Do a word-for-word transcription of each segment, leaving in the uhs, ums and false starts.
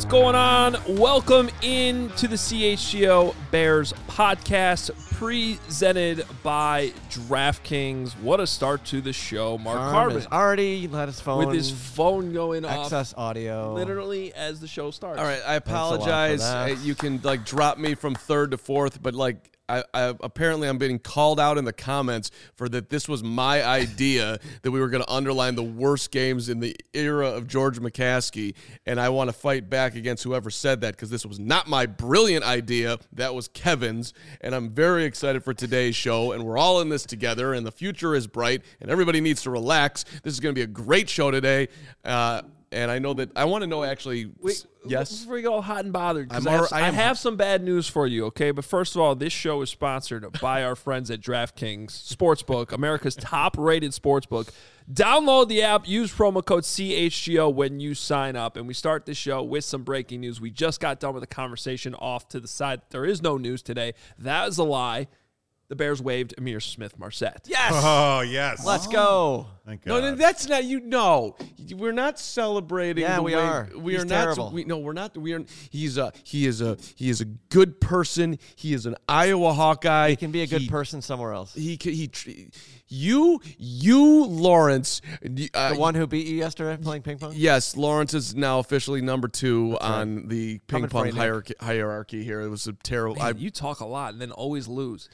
going on? Welcome into the C H G O Bears podcast presented by DraftKings. What a start to the show. Mark Harmon already let his phone with his phone going off. Excess audio. Literally as the show starts. All right, I apologize. Uh, you can like drop me from third to fourth, but like I, I apparently I'm being called out in the comments for that this was my idea that we were going to underline the worst games in the era of George McCaskey, and I want to fight back against whoever said that because this was not my brilliant idea. That was Kevin's, and I'm very excited for today's show, and we're all in this together, and the future is bright, and everybody needs to relax. This is going to be a great show today. Uh, And I know that I want to know actually. Wait, yes. Before we go hot and bothered, because I'm I, have- alre- I I am- have some bad news for you, okay? But first of all, this show is sponsored by our friends at DraftKings Sportsbook, America's top-rated sportsbook. Download the app, use promo code C H G O when you sign up, and we start the show with some breaking news. We just got done with a conversation off to the side. There is no news today. That is a lie. The Bears waived Amir Smith-Marset. Yes. Oh, yes. Let's go. Thank No, God. no, that's not you. No, we're not celebrating. Yeah, the we way, are. We He's are not. terrible. We, no, we're not. We are. He's a. He is a. He is a good person. He is an Iowa Hawkeye. He can be a good he, person somewhere else. He. He. he tr- you. You. Lawrence. Uh, The one who beat you yesterday playing ping pong? Yes, Lawrence is now officially number two That's on right. the ping Coming for pong you, Nick. hierarchy, hierarchy here. It was a terrible. Man, I, you talk a lot and then always lose.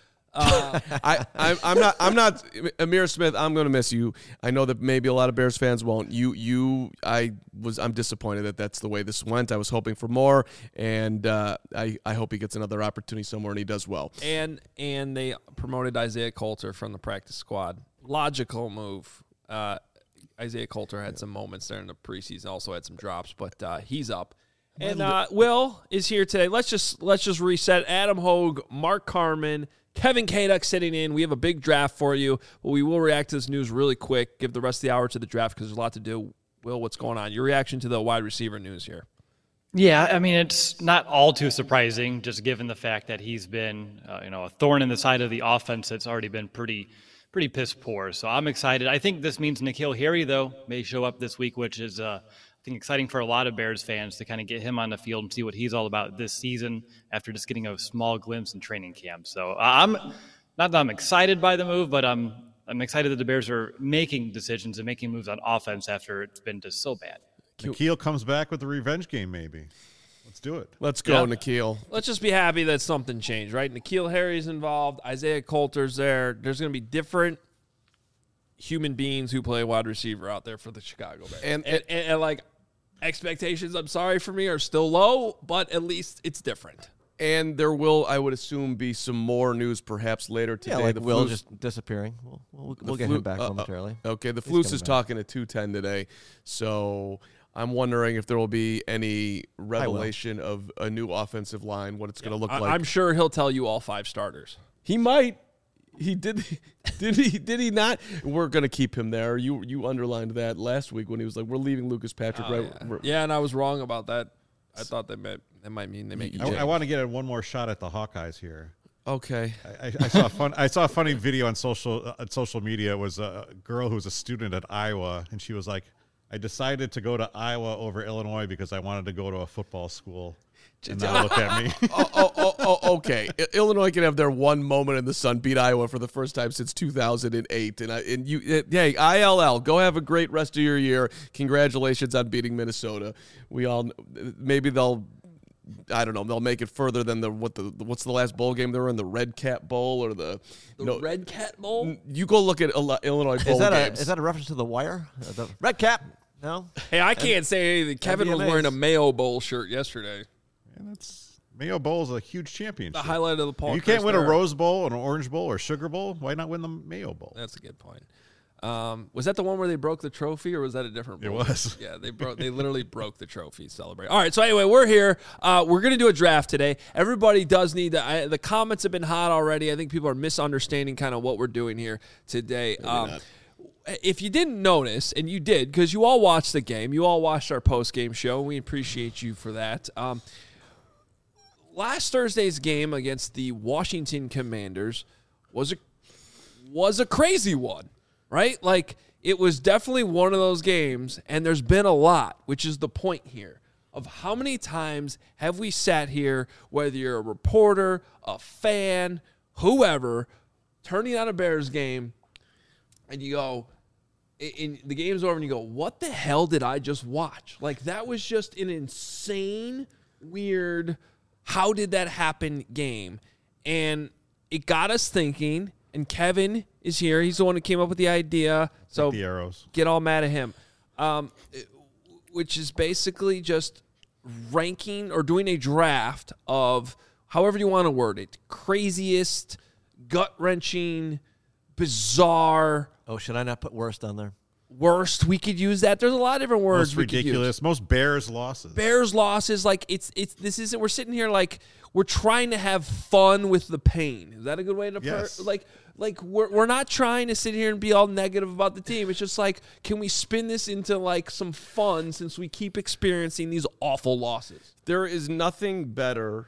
Uh, I, I, I'm not. I'm not. Amir Smith. I'm going to miss you. I know that maybe a lot of Bears fans won't. You. You. I was. I'm disappointed that that's the way this went. I was hoping for more, and uh, I. I hope he gets another opportunity somewhere and he does well. And and they promoted Isaiah Coulter from the practice squad. Logical move. Uh, Isaiah Coulter had some moments there in the preseason. Also had some drops, but uh, he's up. And uh, Will is here today. Let's just let's just reset. Adam Hogue, Mark Carman, Kevin Kaduk sitting in. We have a big draft for you, but we will react to this news really quick. Give the rest of the hour to the draft because there's a lot to do. Will, what's going on? Your reaction to the wide receiver news here? Yeah, I mean, it's not all too surprising, just given the fact that he's been, uh, you know, a thorn in the side of the offense that's already been pretty, pretty piss poor. So I'm excited. I think this means N'Keal Harry, though, may show up this week, which is, uh, I think, exciting for a lot of Bears fans to kind of get him on the field and see what he's all about this season after just getting a small glimpse in training camp. So I'm not that I'm excited by the move, but I'm I'm excited that the Bears are making decisions and making moves on offense after it's been just so bad. N'Keal comes back with the revenge game, maybe. Let's do it. Let's go, Yeah. N'Keal. Let's just be happy that something changed, right? N'Keal Harry's involved. Isaiah Coulter's there. There's going to be different human beings who play wide receiver out there for the Chicago Bears. And- And, and, and, like, expectations, I'm sorry for me, are still low, but at least it's different. And there will, I would assume, be some more news perhaps later today. Yeah, like The Will Flus- just disappearing. We'll, we'll, the we'll get Flu- him back uh, uh, momentarily. Okay, the He's Flus coming is back. talking at two ten today, so I'm wondering if there will be any revelation of a new offensive line, what it's going to look I, like. I'm sure he'll tell you all five starters. He might. He did. Did he? Did he not? We're going to keep him there. You you underlined that last week when he was like, "We're leaving Lucas Patrick." Oh, right. yeah. we're- yeah, and I was wrong about that. I thought that meant that might mean they make you I, change. I want to get one more shot at the Hawkeyes here. Okay. I, I, I saw a fun. I saw a funny video on social uh, on social media. It was a girl who was a student at Iowa, and she was like, "I decided to go to Iowa over Illinois because I wanted to go to a football school." And now look at me. oh, oh, oh, oh, okay. I- Illinois can have their one moment in the sun, beat Iowa for the first time since two thousand eight, and I and you, uh, hey, I L L, go have a great rest of your year. Congratulations on beating Minnesota. We all maybe they'll. I don't know. They'll make it further than the what the what's the last bowl game they were in, the Red Cat Bowl or the the no, Red Cat Bowl? You go look at Ill- Illinois bowl Is that, a, games. is that a reference to The Wire? Uh, the Red Cap? No? Hey, I can't say anything. Kevin was M D M As. wearing a Mayo Bowl shirt yesterday. And that's Mayo Bowl is a huge championship. The highlight of the Paul. If you can't win a Chris era. Rose Bowl, an Orange Bowl, or Sugar Bowl, why not win the Mayo Bowl? That's a good point. Um, was that the one where they broke the trophy, or was that a different It bowl? was. Yeah, they broke. They literally broke the trophy. Celebrate. All right. So anyway, we're here. Uh, we're gonna do a draft today. Everybody does need to. I, the comments have been hot already. I think people are misunderstanding kind of what we're doing here today. Um, if you didn't notice, and you did, because you all watched the game, you all watched our post game show. We appreciate you for that. Um, last Thursday's game against the Washington Commanders was a was a crazy one, right? Like, it was definitely one of those games, and there's been a lot, which is the point here. of how many times have we sat here, whether you're a reporter, a fan, whoever, turning on a Bears game, and you go, in the game's over, and you go, what the hell did I just watch? Like, that was just an insane, weird, how did that happen game. And it got us thinking, and Kevin is here. He's the one who came up with the idea. So Like the arrows. Get all mad at him. Um, which is basically just ranking or doing a draft of, however you want to word it, craziest, gut-wrenching, bizarre. Oh, should I not put worst on there? Worst, we could use that. There's a lot of different words Most we could use. ridiculous. Most Bears losses. Bears losses, like it's it's this isn't. We're sitting here like we're trying to have fun with the pain. Is that a good way to put Yes. it? Like like we're we're not trying to sit here and be all negative about the team. It's just like, can we spin this into like some fun since we keep experiencing these awful losses? There is nothing better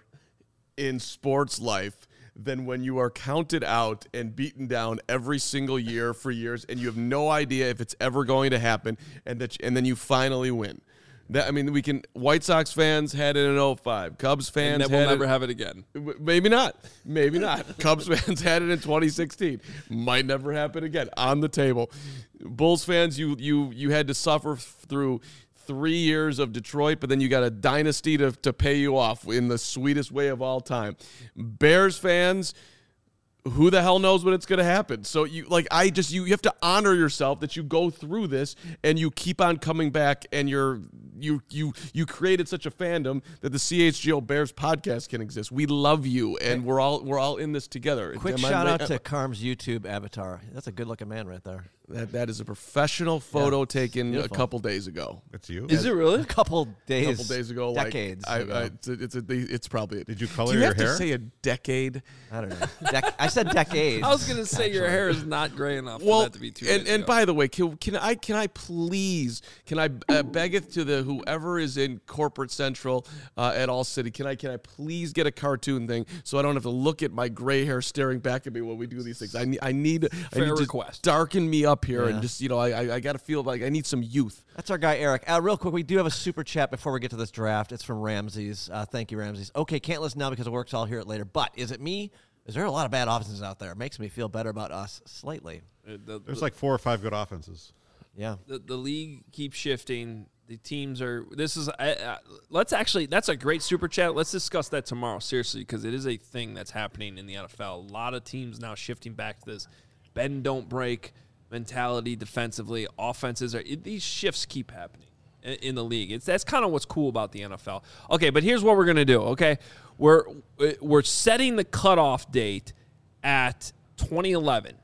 in sports life than when you are counted out and beaten down every single year for years, and you have no idea if it's ever going to happen, and that and then you finally win. That I mean, we can. White Sox fans had it in oh five. Cubs fans And then had we'll never it, have it again. Maybe not. Maybe not. Cubs fans had it in twenty sixteen. Might never happen again. On the table. Bulls fans, you you you had to suffer through three years of Detroit, but then you got a dynasty to, to pay you off in the sweetest way of all time. Bears fans, who the hell knows when it's going to happen? So you like I just you, you have to honor yourself that you go through this and you keep on coming back, and you're you you you created such a fandom that the C H G O Bears podcast can exist. We love you, and we're all we're all in this together. Quick Am I shout right? out to Carm's YouTube avatar. That's a good-looking man right there. That that is a professional photo Yeah, taken beautiful. a couple days ago. It's you. Is it really? A couple days, A couple days ago, decades. Like, I, ago. I, it's a, it's, a, it's probably. Did you color Do you your have hair? to say a decade? I don't know. Dec- I said decades. I was gonna say your actually. hair is not gray enough Well, for that to be two and days and ago. by the way, can, can I can I please can I uh, beggeth to the whoever is in corporate central uh, at All City, can I can I please get a cartoon thing so I don't have to look at my gray hair staring back at me when we do these things. I need I need I Fair need request. to darken me up here Yeah. and just you know I I, I got to feel like I need some youth. That's our guy, Eric. Uh, real quick, we do have a super chat before we get to this draft. It's from Ramses. Uh, thank you, Ramses. Okay, can't listen now because it works. I'll hear it later. But is it me? Is there a lot of bad offenses out there? It makes me feel better about us slightly. Uh, the, There's the, like four or five good offenses. Yeah. the, the league keeps shifting. The teams are. This is. Uh, uh, let's actually. That's a great super chat. Let's discuss that tomorrow, seriously, because it is a thing that's happening in the N F L. A lot of teams now shifting back to this bend don't break mentality defensively. Offenses are. It, these shifts keep happening in, in the league. It's that's kind of what's cool about the N F L. Okay, but here's what we're gonna do. Okay, we're we're setting the cutoff date at twenty eleven,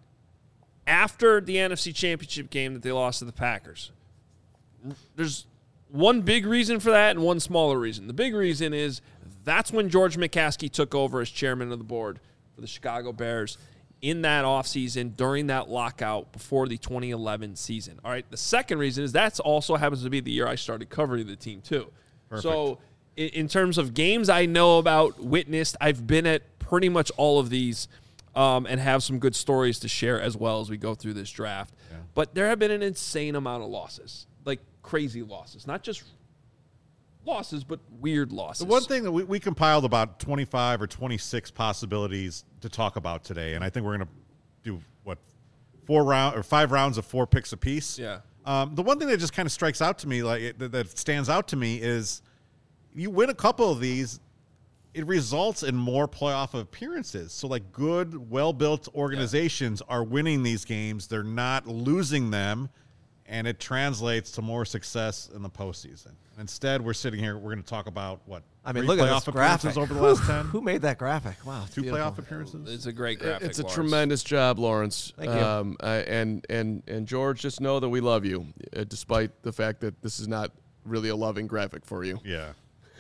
after the N F C Championship game that they lost to the Packers. There's one big reason for that and one smaller reason. The big reason is that's when George McCaskey took over as chairman of the board for the Chicago Bears in that offseason during that lockout before the twenty eleven season. All right, the second reason is that also happens to be the year I started covering the team too. Perfect. So in, in terms of games I know about, witnessed, I've been at pretty much all of these um, and have some good stories to share as well as we go through this draft. Yeah. But there have been an insane amount of losses, like crazy losses, not just losses, but weird losses. The one thing that we, we compiled about twenty-five or twenty-six possibilities to talk about today, and I think we're going to do what four round or five rounds of four picks apiece. Yeah. Um, the one thing that just kind of strikes out to me, like it, that, that stands out to me, is you win a couple of these, it results in more playoff appearances. So, like, good, well-built organizations yeah. are winning these games; they're not losing them, and it translates to more success in the postseason. Instead, we're sitting here. We're going to talk about what I mean, three look at playoff this graphic appearances over the last ten. Who made that graphic? Wow, it's Two beautiful. playoff appearances. It's a great graphic. It's a Lawrence. tremendous job, Lawrence. Thank you. Um, uh, and and and George, just know that we love you, uh, despite the fact that this is not really a loving graphic for you. Yeah.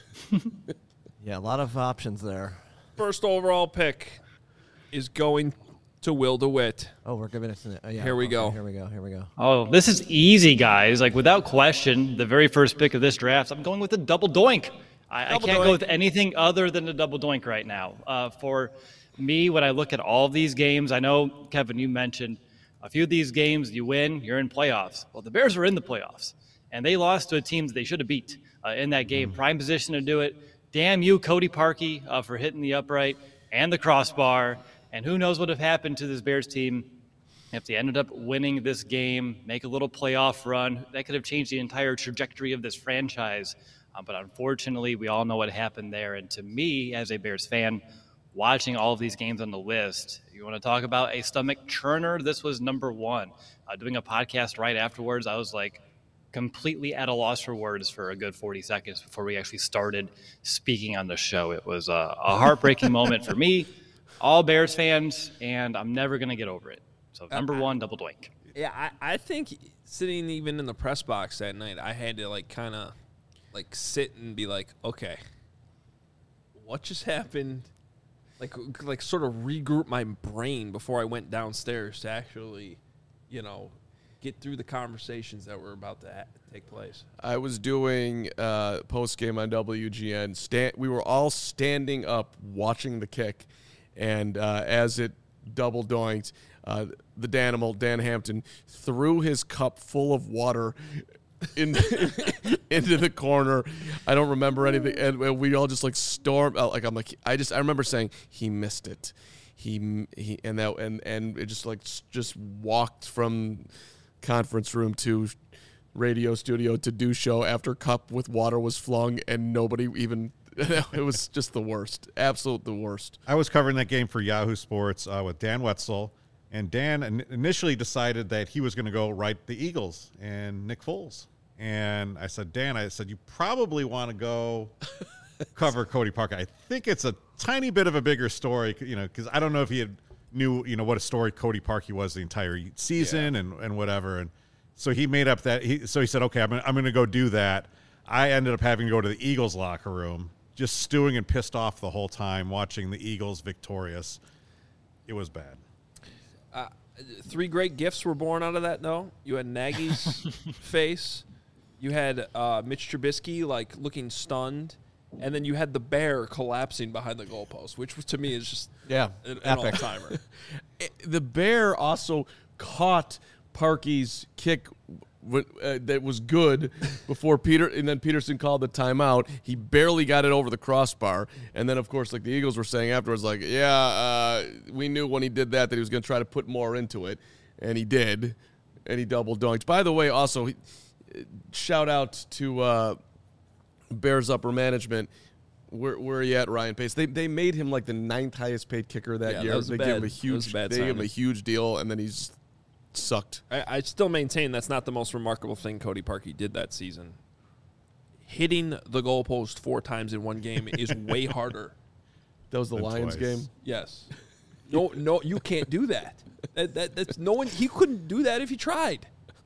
Yeah, a lot of options there. First overall pick is going to Will DeWitt. Oh, we're giving it. To, uh, yeah, Here we okay, go. Here we go. Here we go. Oh, this is easy, guys. Like, without question, the very first pick of this draft, I'm going with a double doink. I, I Double can't doink. go with anything other than a double doink right now. Uh, for me, when I look at all of these games, I know, Kevin, you mentioned a few of these games, you win, you're in playoffs. Well, the Bears are in the playoffs. and they lost to a team that they should have beat uh, in that game. Prime position to do it. Damn you, Cody Parkey, uh, for hitting the upright and the crossbar. And who knows what would have happened to this Bears team if they ended up winning this game, make a little playoff run. That could have changed the entire trajectory of this franchise. Uh, but unfortunately, we all know what happened there. And to me, as a Bears fan, watching all of these games on the list, you want to talk about a stomach churner? This was number one. Uh, doing a podcast right afterwards, I was like completely at a loss for words for a good forty seconds before we actually started speaking on the show. It was a, a heartbreaking moment for me, all Bears fans, and I'm never going to get over it. So number one, double doink. Yeah, I, I think sitting even in the press box that night, I had to like kind of like sit and be like, okay, what just happened? Like, like sort of regroup my brain before I went downstairs to actually, you know, get through the conversations that were about to ha- take place. I was doing uh, post game on W G N. Stand, we were all standing up watching the kick, and uh, as it double doinked, uh, the Danimal, Dan Hampton, threw his cup full of water in, into the corner. I don't remember anything, and we all just like stormed. Like I'm like I just I remember saying he missed it, he he and that and and it just like just walked from conference room to radio studio to do show after cup with water was flung and nobody even. It was just the worst, absolute the worst. I was covering that game for Yahoo Sports uh, with Dan Wetzel. And Dan in- initially decided that he was going to go write the Eagles and Nick Foles. And I said, Dan, I said, you probably want to go cover Cody Parkey. I think it's a tiny bit of a bigger story, you know, because I don't know if he had knew, you know, what a story Cody Parkey was the entire season yeah. and, and whatever. And so he made up that. He, so he said, okay, I'm gonna, I'm going to go do that. I ended up having to go to the Eagles locker room, just stewing and pissed off the whole time, watching the Eagles victorious. It was bad. Uh, three great gifts were born out of that, though. You had Nagy's face. You had uh, Mitch Trubisky, like, looking stunned. And then you had the bear collapsing behind the goalpost, which was, to me is just yeah, an, an all-timer. The bear also caught Parkey's kick w- uh, that was good before Peter, and then Peterson called the timeout. He barely got it over the crossbar. And then, of course, like the Eagles were saying afterwards, like, yeah, uh, we knew when he did that that he was going to try to put more into it. And he did. And he double dunked. By the way, also, he, shout out to uh, Bears upper management. Where, where are you at, Ryan Pace? They they made him like the ninth highest paid kicker that yeah, year. That was they bad, gave him a that was huge, a bad they gave him a signing. huge deal, and then he's sucked. I, I still maintain that's not the most remarkable thing Cody Parkey did that season. Hitting the goalpost four times in one game is way harder. That was the Than Lions twice. game. Yes. No, no, you can't do that. That, that. That's no one. He couldn't do that if he tried.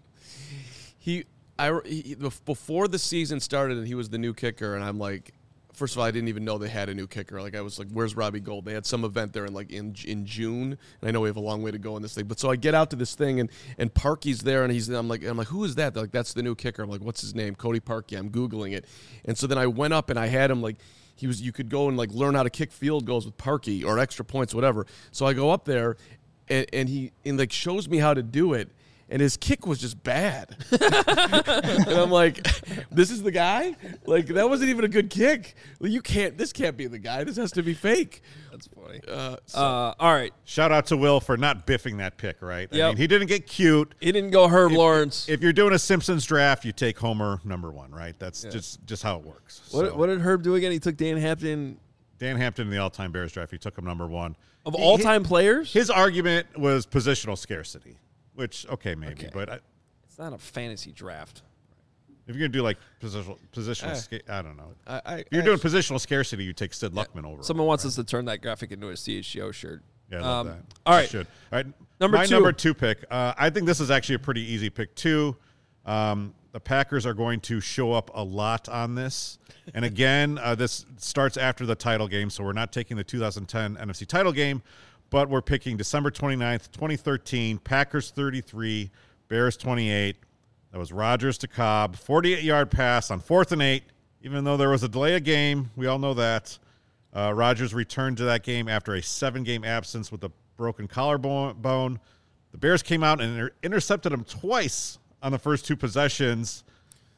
He, I, he, before the season started, and he was the new kicker, and I'm like, first of all, I didn't even know they had a new kicker. Like, I was like, where's Robbie Gould? They had some event there in like in in June, and I know we have a long way to go in this thing. But so I get out to this thing, and and Parkey's there, and he's I'm like I'm like, who is that? They're like, that's the new kicker. I'm like, what's his name? Cody Parkey. I'm googling it, and so then I went up and I had him like. He was. You could go and like learn how to kick field goals with Parkey or extra points, whatever. So I go up there, and, and he and like shows me how to do it, and his kick was just bad. And I'm like, this is the guy? Like that wasn't even a good kick. Like, you can't. This can't be the guy. This has to be fake. That's funny. Uh, so, Uh, all right. Shout out to Will for not biffing that pick, right? I Yep. mean, he didn't get cute. He didn't go Herb If- Lawrence. If you're doing a Simpsons draft, you take Homer number one, right? That's just just how it works. what, So, what did Herb do again? He took Dan Hampton Dan Hampton in the all-time Bears draft, he took him number one. of He- all-time players. His argument was positional scarcity, which okay maybe, Okay. but I, It's not a fantasy draft. if you're gonna do like positional positional, Eh. sca- I don't know. I, I, If you're I- doing positional scarcity, you take Sid Luckman over. Someone him, wants right? us to turn that graphic into a C H G O shirt. Yeah, I love Um, that. all You right. should. All right. Number My two. number two pick. Uh, I think this is actually a pretty easy pick too. Um, the Packers are going to show up a lot on this. And again, uh, this starts after the title game, so we're not taking the two thousand ten N F C title game, but we're picking December twenty-ninth, twenty thirteen, Packers thirty-three, Bears twenty-eight. That was Rodgers to Cobb, forty-eight-yard pass on fourth and eight, even though there was a delay of game. We all know that. Uh, Rodgers returned to that game after a seven-game absence with a broken collarbone. The Bears came out and inter- intercepted him twice on the first two possessions.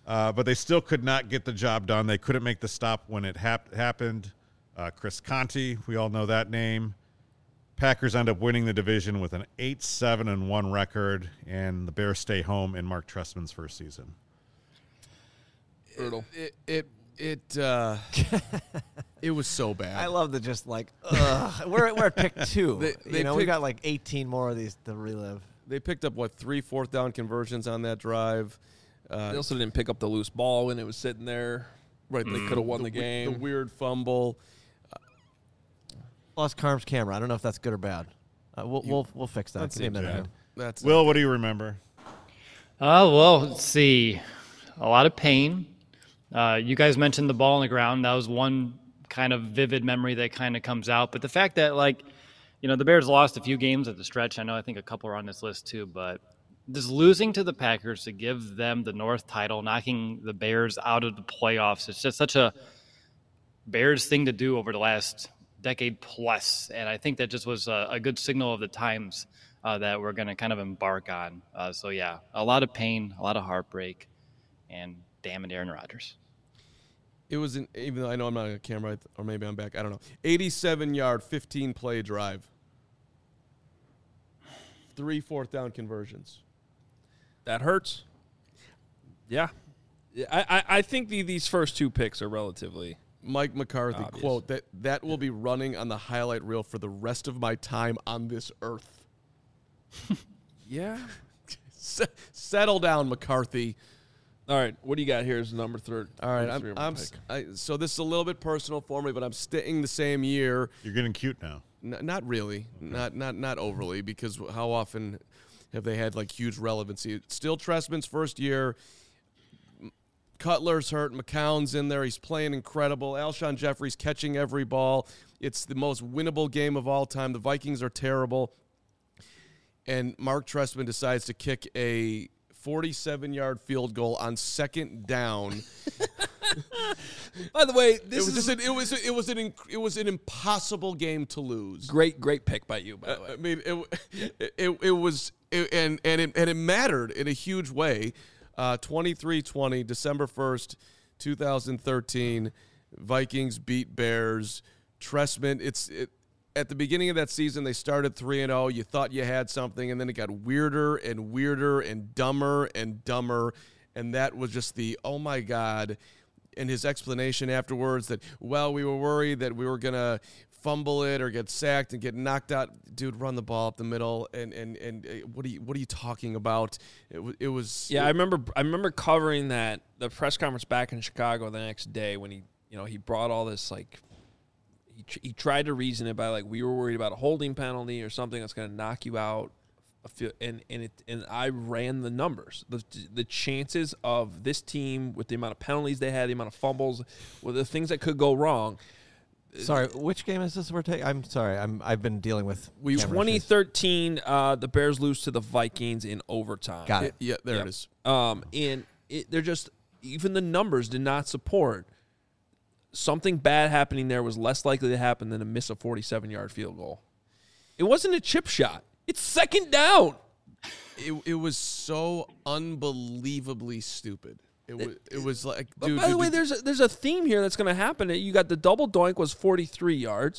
Uh, but they still could not get the job done. They couldn't make the stop when it hap- happened. Uh, Chris Conte, we all know that name. Packers end up winning the division with an eight seven and one record, and the Bears stay home in Mark Trestman's first season. Brutal. It it it, uh, it was so bad. I love the just like, ugh. we're, we're at pick two. They- they you know, we picked- got like eighteen more of these to relive. They picked up, what, three fourth down conversions on that drive. Uh, They also didn't pick up the loose ball when it was sitting there. right, They could have won the, we- game. The weird fumble. Lost Carm's camera. I don't know if that's good or bad. Uh, we'll, You- we'll we'll fix that. That's Give me a it, minute. Jan. That's Will, what do you remember? Uh, well, let's see. A lot of pain. Uh, you guys mentioned the ball on the ground. That was one kind of vivid memory that kind of comes out. But the fact that, like, you know, the Bears lost a few games at the stretch. I know I think a couple are on this list too. But just losing to the Packers to give them the North title, knocking the Bears out of the playoffs, it's just such a Bears thing to do over the last decade plus. And I think that just was a, a good signal of the times uh, that we're going to kind of embark on. Uh, so, yeah, a lot of pain, a lot of heartbreak, and damn it, Aaron Rodgers. It was, an, even though I know I'm not on camera, or maybe I'm back, I don't know. eighty-seven yard, fifteen play drive. Three fourth down conversions. That hurts. Yeah. I, I, I think the, these first two picks are relatively. Mike McCarthy, Obvious. quote, that, that will be running on the highlight reel for the rest of my time on this earth. Yeah. S- settle down, McCarthy. All right. What do you got here as number third? All right, number I'm, three of my I'm pick? s- I, so this is a little bit personal for me, but I'm staying the same year. You're getting cute now. N- not really, not not not overly, because how often have they had like huge relevancy? Still Trestman's first year. M- Cutler's hurt. McCown's in there. He's playing incredible. Alshon Jeffrey's catching every ball. It's the most winnable game of all time. The Vikings are terrible. And Mark Trestman decides to kick a forty-seven yard field goal on second down. By the way, It this was is just an, it was it was an inc- it was an impossible game to lose. great, great pick by you, by the way. I mean, it it, it, it was it, and and it, and it mattered in a huge way. Uh, twenty-three twenty, December first, two thousand thirteen, Vikings beat Bears. Trestman, it's it, at the beginning of that season, they started three and oh. You thought you had something, and then it got weirder and weirder and dumber and dumber. And that was just the, oh, my God. And his explanation afterwards that, well, we were worried that we were going to fumble it or get sacked and get knocked out. Dude, run the ball up the middle. And and and uh, what are you what are you talking about? It, w- it was Yeah, I remember. I remember covering that the press conference back in Chicago the next day when he, you know, he brought all this like. He, tr- he tried to reason it by like we were worried about a holding penalty or something that's going to knock you out, a few, and and it and I ran the numbers. The the chances of this team with the amount of penalties they had, the amount of fumbles, with the things that could go wrong. Sorry, which game is this we're taking? I'm sorry. I'm I've been dealing with We- camera twenty issues. thirteen, uh, the Bears lose to the Vikings in overtime. Got it, it. yeah, there Yep. it is. Um, and it, they're just even the numbers did not support something bad happening there was less likely to happen than to miss a forty-seven yard field goal. It wasn't a chip shot. It's second down. It it was so unbelievably stupid. It was it was like, But dude. by the dude, way, dude, there's a, there's a theme here that's going to happen. You got the double doink was forty-three yards.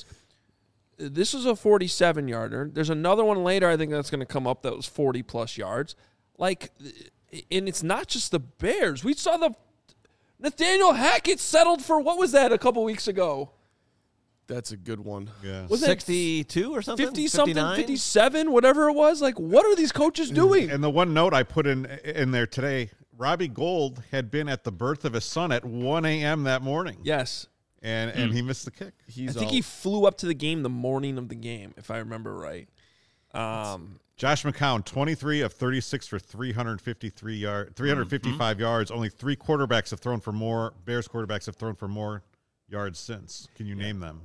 This was a forty-seven yarder. There's another one later I think that's going to come up that was forty plus yards. Like, and it's not just the Bears. We saw the Nathaniel Hackett settled for what was that a couple weeks ago? that's a good one. Yeah. Was it sixty-two or something? fifty something, fifty-nine? fifty-seven, whatever it was? Like, what are these coaches doing? And the one note I put in in there today, Robbie Gould had been at the birth of his son at one a.m. that morning. Yes. And and he missed the kick. He's I think all, he flew up to the game the morning of the game, if I remember right. Um, Josh McCown, twenty-three of thirty-six for three hundred fifty-three yard, three hundred fifty-five Mm-hmm. yards. Only three quarterbacks have thrown for more. Bears quarterbacks have thrown for more yards since. Can you name them?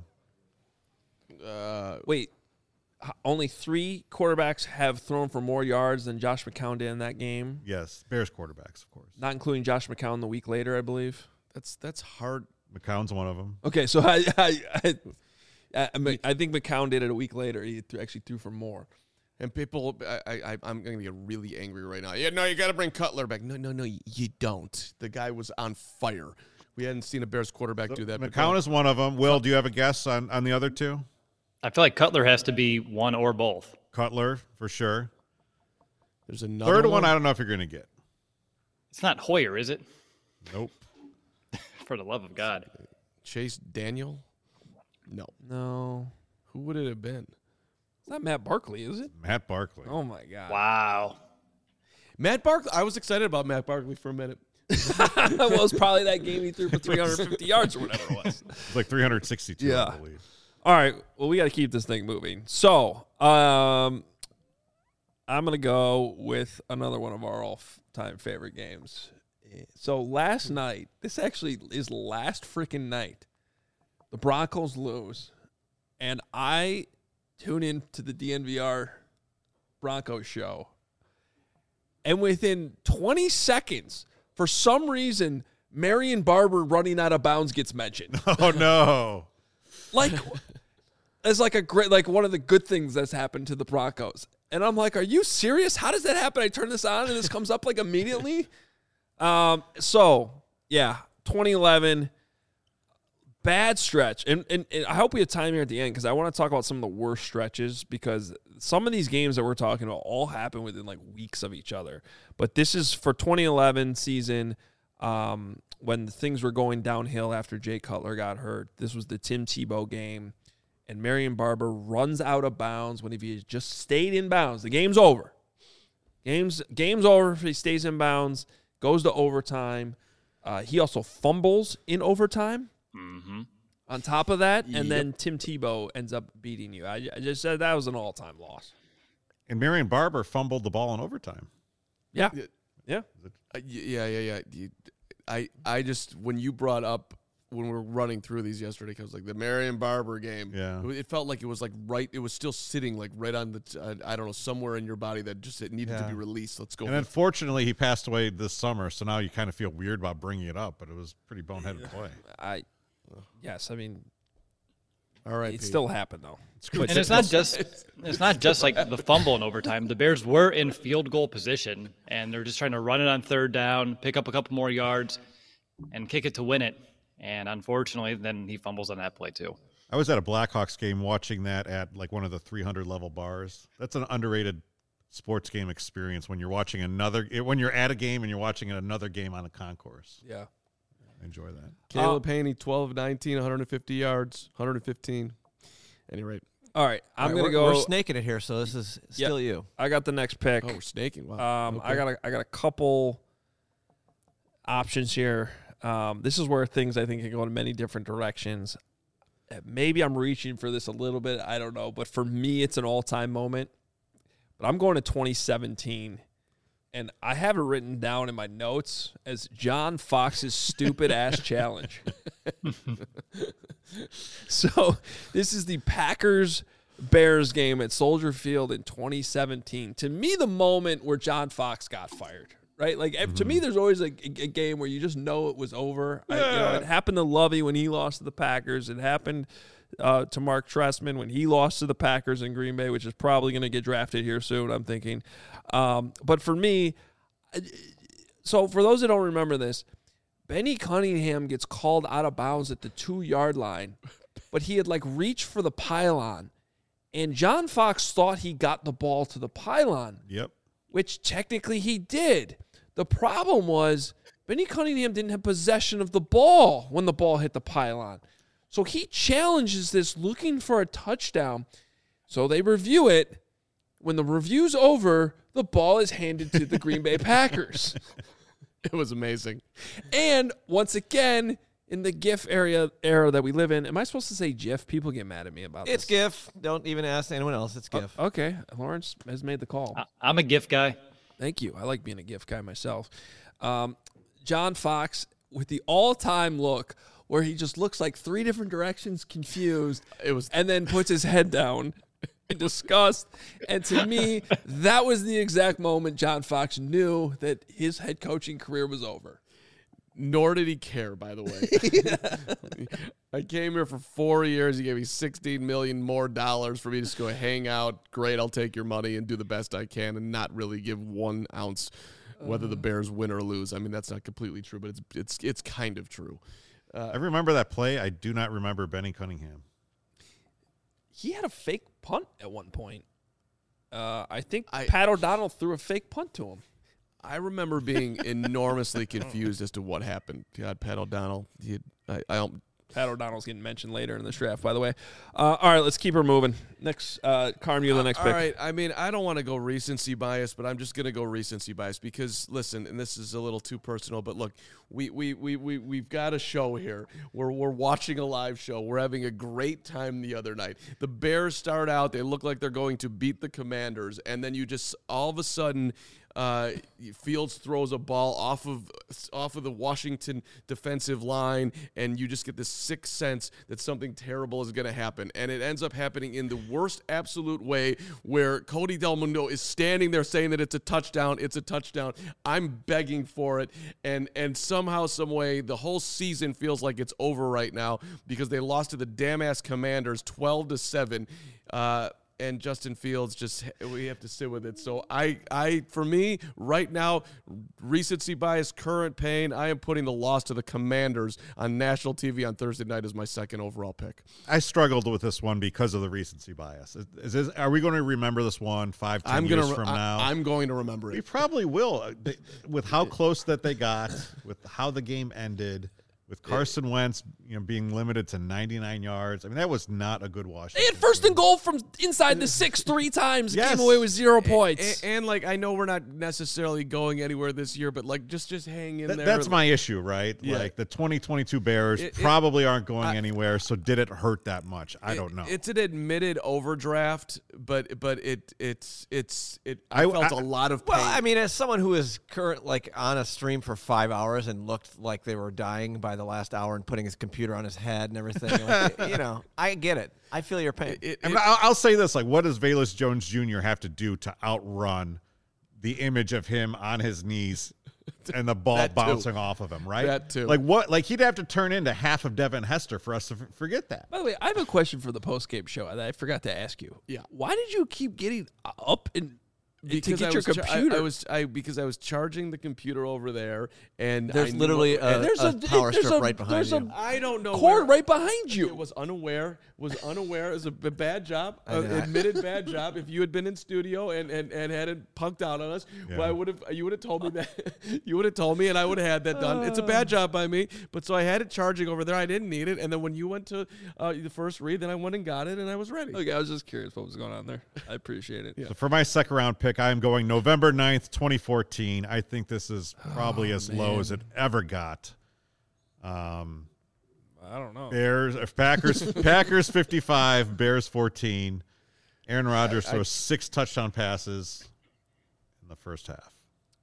uh, wait, h- only three quarterbacks have thrown for more yards than Josh McCown did in that game, Yes, Bears quarterbacks, of course. not including Josh McCown the week later, I believe. that's that's hard. McCown's one of them. Okay, so I I, I, I, mean, I think McCown did it a week later. He th- actually threw for more. And people, I, I, I'm going to get really angry right now. Yeah, no, you got to bring Cutler back. No, no, no, you don't. The guy was on fire. We hadn't seen a Bears quarterback so do that. McCown is one of them. Will, do you have a guess on, on the other two? I feel like Cutler has to be one or both. Cutler, for sure. There's another Third one. one, I don't know if you're going to get. It's not Hoyer, is it? Nope. For the love of God. Chase Daniel? No. No. Who would it have been? It's not Matt Barkley, is it? Matt Barkley. Oh, my God. Wow. Matt Barkley. I was excited about Matt Barkley for a minute. Well, it was probably that game he threw for three hundred fifty yards or whatever it was. It's like three hundred sixty-two, Yeah. I believe. All right. Well, we got to keep this thing moving. So, um, I'm going to go with another one of our all-time favorite games. So, last night, this actually is last freaking night, the Broncos lose, and I tune in to the D N V R Broncos show, and within twenty seconds, for some reason, Marion Barber running out of bounds gets mentioned. Oh, no. Like, it's like a great, like one of the good things that's happened to the Broncos. And I'm like, are you serious? How does that happen? I turn this on and this comes up like immediately. Um, so yeah, twenty eleven, bad stretch. And, and, and I hope we have time here at the end because I want to talk about some of the worst stretches because some of these games that we're talking about all happen within like weeks of each other. But this is for twenty eleven season. Um, when things were going downhill after Jay Cutler got hurt. This was the Tim Tebow game, and Marion Barber runs out of bounds when if he had just stayed in bounds, the game's over. Game's, game's over if he stays in bounds, goes to overtime. Uh, he also fumbles in overtime Mm-hmm. on top of that, and Yep. then Tim Tebow ends up beating you. I, I just said that was an all-time loss. And Marion Barber fumbled the ball in overtime. Yeah. Yeah. Yeah. Uh, y- yeah, yeah, yeah. You, I, I just when you brought up when we were running through these yesterday, because like the Marion Barber game, Yeah. it, it felt like it was like right. It was still sitting like right on the, t- uh, I don't know, somewhere in your body that just it needed to Yeah. be released. Let's go. And with- unfortunately, he passed away this summer, so now you kind of feel weird about bringing it up, but it was pretty boneheaded play. I, yes, I mean, All right, it Pete. still happened, though. And it's not just it's not just like the fumble in overtime. The Bears were in field goal position, and they're just trying to run it on third down, pick up a couple more yards, and kick it to win it. And unfortunately, then he fumbles on that play too. I was at a Blackhawks game watching that at like one of the three hundred level bars. That's an underrated sports game experience when you're watching another when you're at a game and you're watching another game on a concourse. Yeah. I enjoy that. Caleb Haney, twelve nineteen, one hundred fifty yards, one hundred fifteen. Any rate. All right, I'm All right, gonna we're, go. We're snaking it here, so this is still you. I got the next pick. Oh, we're snaking. Wow. Um, Okay. I got a, I got a couple options here. Um, this is where things I think can go in many different directions. Uh, Maybe I'm reaching for this a little bit. I don't know, but for me, it's an all-time moment. But I'm going to twenty seventeen, and I have it written down in my notes as John Fox's stupid ass challenge. So this is the Packers Bears game at Soldier Field in twenty seventeen. To me, the moment where John Fox got fired, right? Like mm-hmm. to me, there's always a, a game where you just know it was over. Yeah. I, you know, it happened to Lovey when he lost to the Packers. It happened uh, to Mark Trestman when he lost to the Packers in Green Bay, which is probably going to get drafted here soon, I'm thinking. Um, but for me, so for those that don't remember this, Benny Cunningham gets called out of bounds at the two-yard line, but he had, like, reached for the pylon, and John Fox thought he got the ball to the pylon, Yep. which technically he did. The problem was Benny Cunningham didn't have possession of the ball when the ball hit the pylon. So he challenges this looking for a touchdown. So they review it. When the review's over, the ball is handed to the Green Bay Packers. It was amazing. And once again, in the GIF area era that we live in, am I supposed to say GIF? People get mad at me about It's this. GIF. Don't even ask anyone else. It's GIF. Oh, okay, Lawrence has made the call. I, I'm a GIF guy. Thank you. I like being a GIF guy myself. Um, John Fox with the all-time look where he just looks like three different directions, confused, It was and then puts his head down in disgust. And to me, that was the exact moment John Fox knew that his head coaching career was over. Nor did he care, by the way. I came here for four years. He gave me sixteen million dollars more dollars for me to just go hang out. Great, I'll take your money and do the best I can and not really give one ounce whether the Bears win or lose. I mean, that's not completely true, but it's it's it's kind of true. Uh, I remember that play. I do not remember Benny Cunningham. He had a fake punt at one point. Uh, I think I, Pat O'Donnell threw a fake punt to him. I remember being enormously confused as to what happened. God, Pat O'Donnell. He had, I, I don't. Pat O'Donnell's getting mentioned later in this draft, by the way. Uh, all right, let's keep her moving. Next, uh, Carm, you're the next uh, pick. All right, I mean, I don't want to go recency bias, but I'm just going to go recency bias because, listen, and this is a little too personal, but look, we, we, we, we, we've got a show here. We're, we're watching a live show. We're having a great time the other night. The Bears start out. They look like they're going to beat the Commanders, and then you just all of a sudden – Uh, Fields throws a ball off of off of the Washington defensive line, and you just get this sixth sense that something terrible is going to happen. And it ends up happening in the worst absolute way, where Cody Del Mundo is standing there saying that it's a touchdown, it's a touchdown. I'm begging for it, and and somehow, some way, the whole season feels like it's over right now because they lost to the damn-ass Commanders twelve to seven. Uh, And Justin Fields, just we have to sit with it. So I, I, for me, right now, recency bias, current pain. I am putting the loss to the Commanders on national T V on Thursday night as my second overall pick. I struggled with this one because of the recency bias. Is, is this, are we going to remember this one five, ten I'm years gonna, from I, now? I'm going to remember it. We probably will. They, with how close that they got, with how the game ended. With Carson Wentz, you know, being limited to ninety-nine yards, I mean that was not a good Washington. They had first and goal from inside the six three times. Yes. Came away with zero points. And, and like I know we're not necessarily going anywhere this year, but like just just hang in Th- there. That's my issue, right? Yeah. Like the twenty twenty-two Bears It- it- probably aren't going I- anywhere. So did it hurt that much? I It- don't know. It's an admitted overdraft, but but it it's it's it. I, I- felt I- a lot of pain. Well, I mean, as someone who was current like on a stream for five hours and looked like they were dying by the last hour and putting his computer on his head and everything, like, you know, I get it. I feel your pain. It- I it- mean, I'll, I'll say this: like, what does Velus Jones Junior have to do to outrun the image of him on his knees and the ball That too. bouncing off of him? Right? That too. Like what? Like he'd have to turn into half of Devin Hester for us to f- forget that. By the way, I have a question for the post-game show that I forgot to ask you. Yeah. Why did you keep getting up and because to I get your was char- computer? I, I was I because I was charging the computer over there, and There's I knew literally what- a, and there's a a- power there's strip a- right behind there's a- you. I don't know cord where- right behind you. It was unaware. Was unaware. It was a b- bad job. I Uh, know. admitted bad job. If you had been in studio and, and, and hadn't punked out on us, Yeah. well, I would have. You would have told me that. You would have told me, and I would have had that done. It's a bad job by me. But so I had it charging over there. I didn't need it. And then when you went to uh, the first read, then I went and got it, and I was ready. Okay, I was just curious what was going on there. I appreciate it. So for my second round pick, I am going November ninth, twenty fourteen. I think this is probably as low as it ever got. Um, I don't know. Bears, uh, Packers, Packers fifty-five, Bears fourteen. Aaron Rodgers throws six touchdown passes in the first half.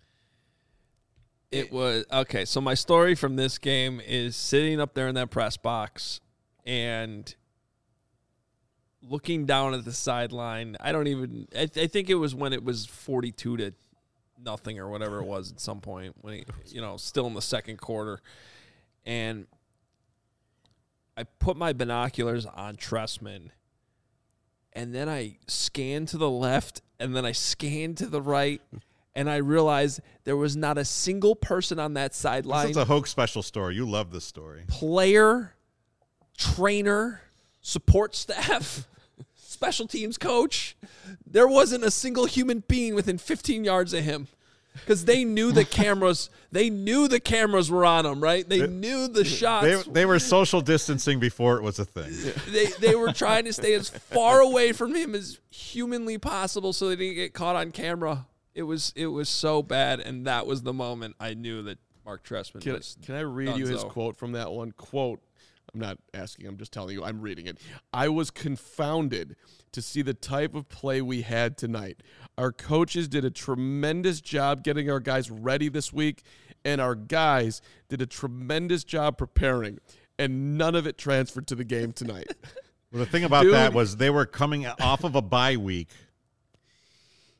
It was okay. So my story from this game is sitting up there in that press box and looking down at the sideline. I don't even. I, I think it was when it was forty-two to nothing or whatever it was at some point when he, you know, still in the second quarter, and I put my binoculars on Tressman, and then I scanned to the left, and then I scanned to the right. And I realized there was not a single person on that sideline. This is a Hoke special story. You love this story. Player, trainer, support staff, special teams coach. There wasn't a single human being within fifteen yards of him because they knew the cameras. They knew the cameras were on him, right? They, They- knew the shots. They, they were social distancing before it was a thing. They they were trying to stay as far away from him as humanly possible so they didn't get caught on camera. It was it was so bad, and that was the moment I knew that Mark Tressman Can, was. can I read you his Dunzo. quote from that one? Quote, I'm not asking, I'm just telling you, I'm reading it. I was confounded to see the type of play we had tonight. Our coaches did a tremendous job getting our guys ready this week, and our guys did a tremendous job preparing, and none of it transferred to the game tonight. Well, the thing about Dude. that was they were coming off of a bye week.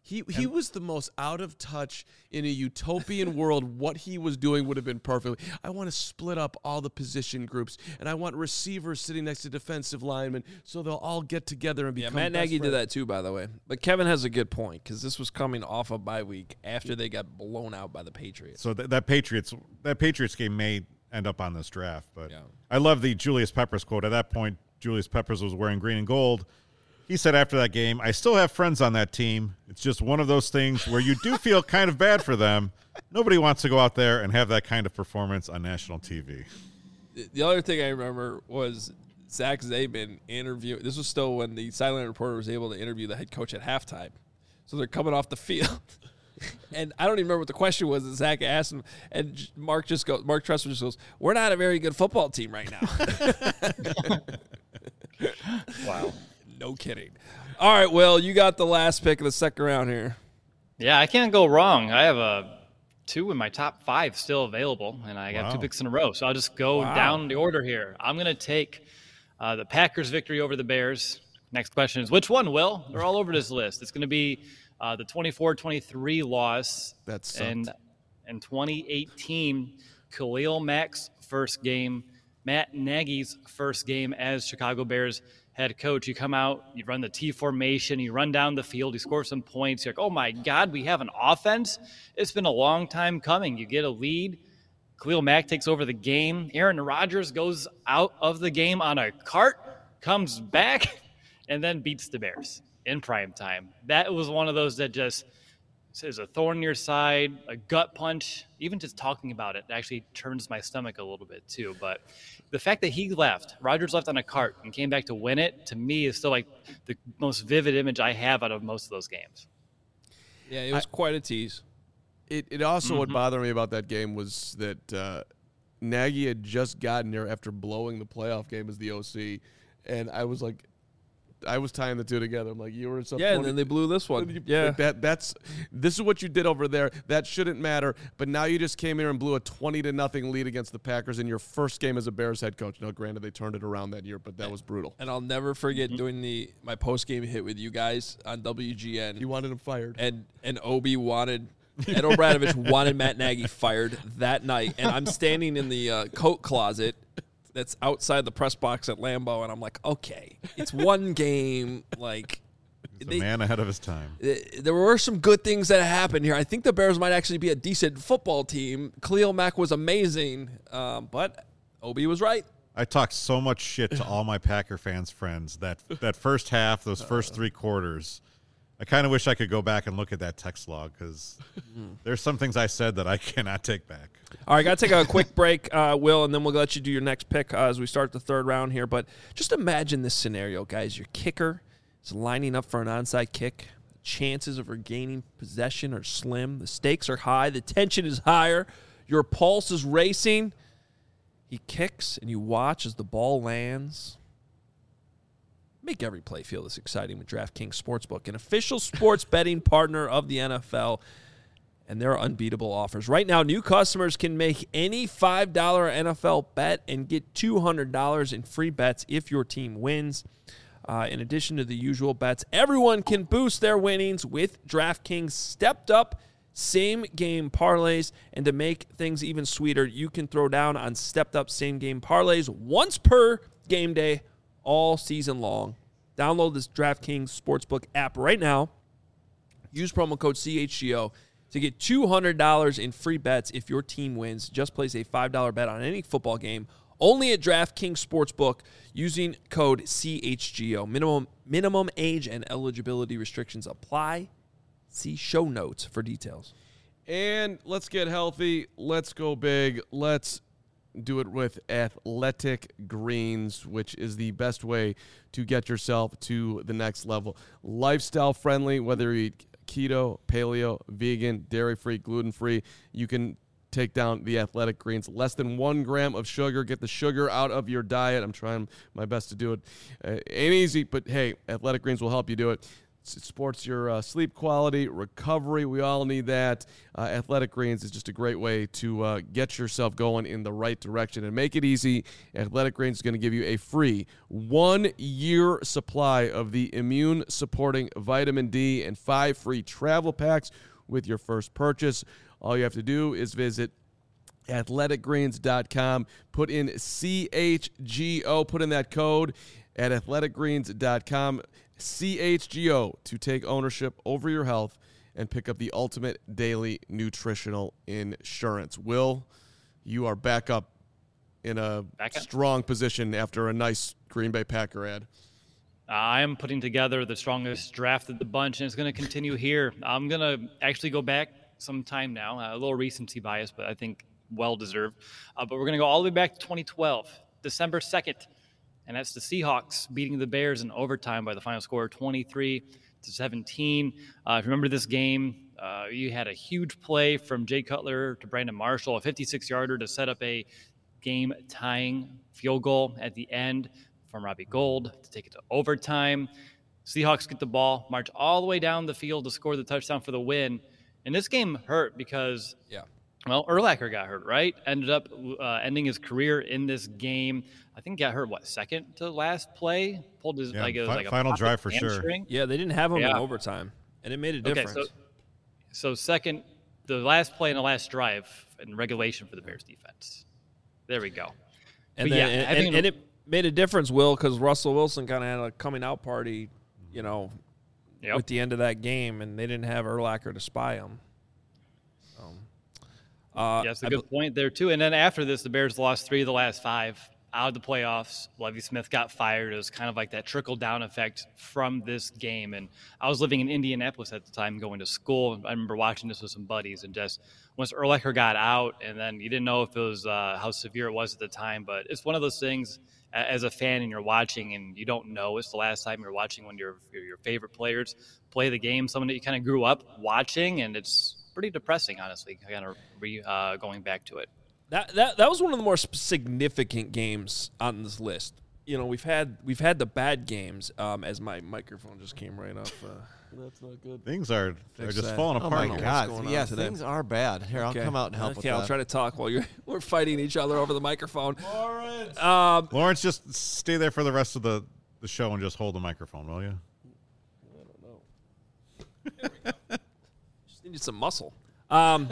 He he was the most out of touch in a utopian world. What he was doing would have been perfect. I want to split up all the position groups, and I want receivers sitting next to defensive linemen so they'll all get together and become Yeah, Matt Nagy best did friends. that too, by the way. But Kevin has a good point because this was coming off a bye week after they got blown out by the Patriots. So th- that Patriots that Patriots game may end up on this draft, but Yeah. I love the Julius Peppers quote. At that point, Julius Peppers was wearing green and gold. He said after that game, "I still have friends on that team. It's just one of those things where you do feel kind of bad for them. Nobody wants to go out there and have that kind of performance on national T V." The other thing I remember was Zach Zabin interview. This was still when the sideline reporter was able to interview the head coach at halftime. So they're coming off the field. And I don't even remember what the question was that Zach asked him. And Mark just goes, Mark Tressler just goes, "We're not a very good football team right now." Wow. No kidding. All right, Will, you got the last pick of the second round here. Yeah, I can't go wrong. I have a two in my top five still available, and I got Wow. two picks in a row. So I'll just go Wow. down the order here. I'm going to take uh, the Packers' victory over the Bears. Next question is, which one, Will? They're all over this list. It's going to be uh, the twenty-four twenty-three loss. That sucked. And in twenty eighteen, Khalil Mack's first game, Matt Nagy's first game as Chicago Bears head coach. You come out, you run the T formation, you run down the field, you score some points. You're like, oh my God, we have an offense. It's been a long time coming. You get a lead. Khalil Mack takes over the game. Aaron Rodgers goes out of the game on a cart, comes back, and then beats the Bears in prime time. That was one of those that just is a thorn in your side, a gut punch. Even just talking about it actually turns my stomach a little bit too. But the fact that he left, Rodgers left on a cart and came back to win it, to me is still like the most vivid image I have out of most of those games. Yeah, it was I, quite a tease. It it also Mm-hmm. what bothered me about that game was that uh, Nagy had just gotten there after blowing the playoff game as the O C, and I was like, I was tying the two together. I'm like, you were Yeah, and then they blew this one. You, yeah, like that that's this is what you did over there. That shouldn't matter. But now you just came here and blew a twenty to nothing lead against the Packers in your first game as a Bears head coach. Now, granted, they turned it around that year, but that was brutal. And I'll never forget mm-hmm. doing the my post game hit with you guys on W G N. You wanted him fired, and and Obi wanted. Ed O'Bradovich wanted Matt Nagy fired that night, and I'm standing in the uh, coat closet that's outside the press box at Lambeau, and I'm like, okay, it's one game. Like, He's they, a man ahead of his time. There were some good things that happened here. I think the Bears might actually be a decent football team. Khalil Mack was amazing, um, but Obi was right. I talked so much shit to all my Packer fans friends that that first half, those first three quarters. I kind of wish I could go back and look at that text log because there's some things I said that I cannot take back. All right, got to take a quick break, uh, Will, and then we'll let you do your next pick uh, as we start the third round here. But just imagine this scenario, guys. Your kicker is lining up for an onside kick. The chances of regaining possession are slim. The stakes are high. The tension is higher. Your pulse is racing. He kicks, and you watch as the ball lands. Make every play feel this exciting with DraftKings Sportsbook, an official sports betting partner of the N F L, and there are unbeatable offers. Right now, new customers can make any five dollar N F L bet and get two hundred dollars in free bets if your team wins. Uh, in addition to the usual bets, everyone can boost their winnings with DraftKings stepped-up same-game parlays, and to make things even sweeter, you can throw down on stepped-up same-game parlays once per game day, all season long. Download this DraftKings Sportsbook app right now. Use promo code C H G O to get two hundred dollars in free bets if your team wins. Just place a five dollar bet on any football game only at DraftKings Sportsbook using code C H G O. Minimum, minimum age and eligibility restrictions apply. See show notes for details. And let's get healthy. Let's go big. Let's do it with Athletic Greens, which is the best way to get yourself to the next level. Lifestyle friendly, whether you eat keto, paleo, vegan, dairy-free, gluten-free, you can take down the Athletic Greens. Less than one gram of sugar. Get the sugar out of your diet. I'm trying my best to do it. Uh, ain't easy, but hey, Athletic Greens will help you do it. It supports your uh, sleep quality, recovery. We all need that. Uh, Athletic Greens is just a great way to uh, get yourself going in the right direction and make it easy. Athletic Greens is going to give you a free one-year supply of the immune-supporting vitamin D and five free travel packs with your first purchase. All you have to do is visit athletic greens dot com, put in C H G O, put in that code at athletic greens dot com. C H G O to take ownership over your health and pick up the ultimate daily nutritional insurance. Will, you are back up in a back strong position after a nice Green Bay Packer ad. I am putting together the strongest draft of the bunch, and it's going to continue here. I'm going to actually go back some time now, a little recency bias, but I think well-deserved. Uh, but we're going to go all the way back to twenty twelve, December second. And that's the Seahawks beating the Bears in overtime by the final score twenty-three to seventeen. Uh, if you remember this game, uh, you had a huge play from Jay Cutler to Brandon Marshall, a fifty-six-yarder to set up a game-tying field goal at the end from Robbie Gould to take it to overtime. Seahawks get the ball, march all the way down the field to score the touchdown for the win. And this game hurt because yeah. Well, Urlacher got hurt, right? Ended up uh, ending his career in this game. I think got hurt, what, second to last play? Pulled his yeah, like, it was fi- like a final drive for hamstring. sure. Yeah, they didn't have him yeah. in overtime, and it made a difference. Okay, so, so second, the last play and the last drive in regulation for the Bears defense. There we go. And, but then, yeah, and, and, and it made a difference, Will, because Russell Wilson kind of had a coming out party, you know, yep. with the end of that game, and they didn't have Urlacher to spy him. Uh, yes, a good I, point there, too. And then after this, the Bears lost three of the last five out of the playoffs. Lovie Smith got fired. It was kind of like that trickle-down effect from this game. And I was living in Indianapolis at the time, going to school. I remember watching this with some buddies. And just once Urlacher got out, and then you didn't know if it was uh, how severe it was at the time. But it's one of those things, as a fan, and you're watching, and you don't know it's the last time you're watching when your your favorite players play the game, someone that you kind of grew up watching, and it's pretty depressing, honestly, kind of re, uh, going back to it. That, that that was one of the more significant games on this list. You know, we've had we've had the bad games. Um, as my microphone just came right off. Uh, That's not good. Things are are just that. falling Oh apart. my here. God! Yes, things are bad. Here, I'll Okay. come out and help okay, with I'll that. try to talk while you're we're fighting each other over the microphone. Lawrence. Um, Lawrence, just stay there for the rest of the, the show and just hold the microphone, will you? I don't know. There we go. Just needed some muscle. Um,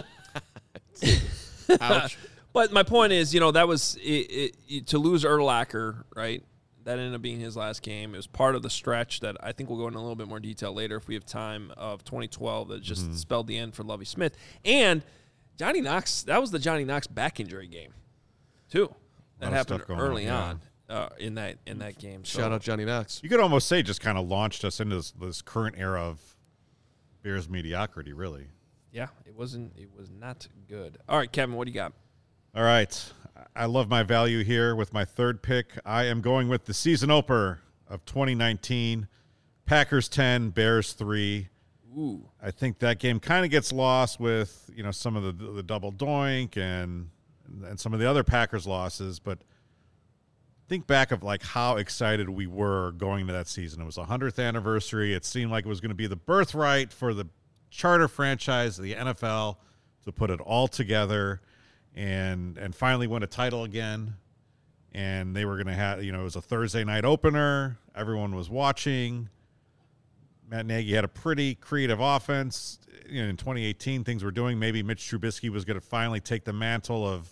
Ouch. But my point is, you know, that was it, it, it, to lose Urlacher, right? That ended up being his last game. It was part of the stretch that I think we'll go into a little bit more detail later if we have time of twenty twelve that just mm-hmm. spelled the end for Lovie Smith. And Johnny Knox, that was the Johnny Knox back injury game, too. That happened early on, yeah. on uh, in that in that game. So, shout out Johnny Knox. You could almost say just kind of launched us into this, this current era of Bears mediocrity, really. Yeah, it wasn't. It was not good. All right, Kevin, what do you got? All right. I love my value here with my third pick. I am going with the season opener of twenty nineteen. Packers ten, Bears three. Ooh. I think that game kind of gets lost with, you know, some of the the double doink and and some of the other Packers losses, but think back of like how excited we were going to that season. It was the hundredth anniversary. It seemed like it was going to be the birthright for the charter franchise, the N F L, to put it all together and and finally win a title again. And they were going to have, you know, it was a Thursday night opener. Everyone was watching. Matt Nagy had a pretty creative offense. You know, in twenty eighteen, things were doing. Maybe Mitch Trubisky was going to finally take the mantle of,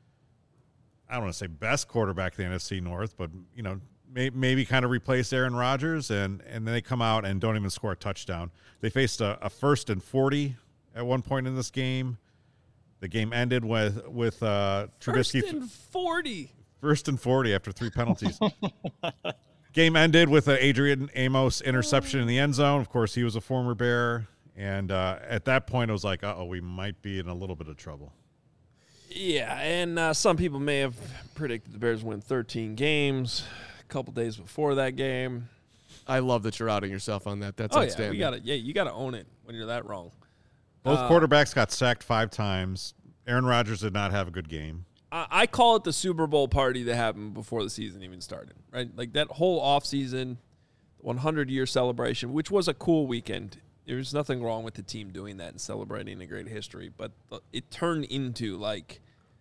I don't want to say best quarterback in the N F C North, but, you know, may, maybe kind of replace Aaron Rodgers. And, and then they come out and don't even score a touchdown. They faced a, a first and forty at one point in this game. The game ended with, with uh, Trubisky. First and forty. First and forty after three penalties. Game ended with an Adrian Amos interception in the end zone. Of course, he was a former Bear. And uh, at that point, it was like, uh-oh, we might be in a little bit of trouble. Yeah, and uh, some people may have predicted the Bears win thirteen games a couple days before that game. I love that you're outing yourself on that. That's oh, outstanding. Yeah, we gotta, yeah, you got to own it when you're that wrong. Both uh, quarterbacks got sacked five times. Aaron Rodgers did not have a good game. I, I call it the Super Bowl party that happened before the season even started, right? Like that whole offseason, the hundred-year celebration, which was a cool weekend. There's nothing wrong with the team doing that and celebrating a great history, but it turned into like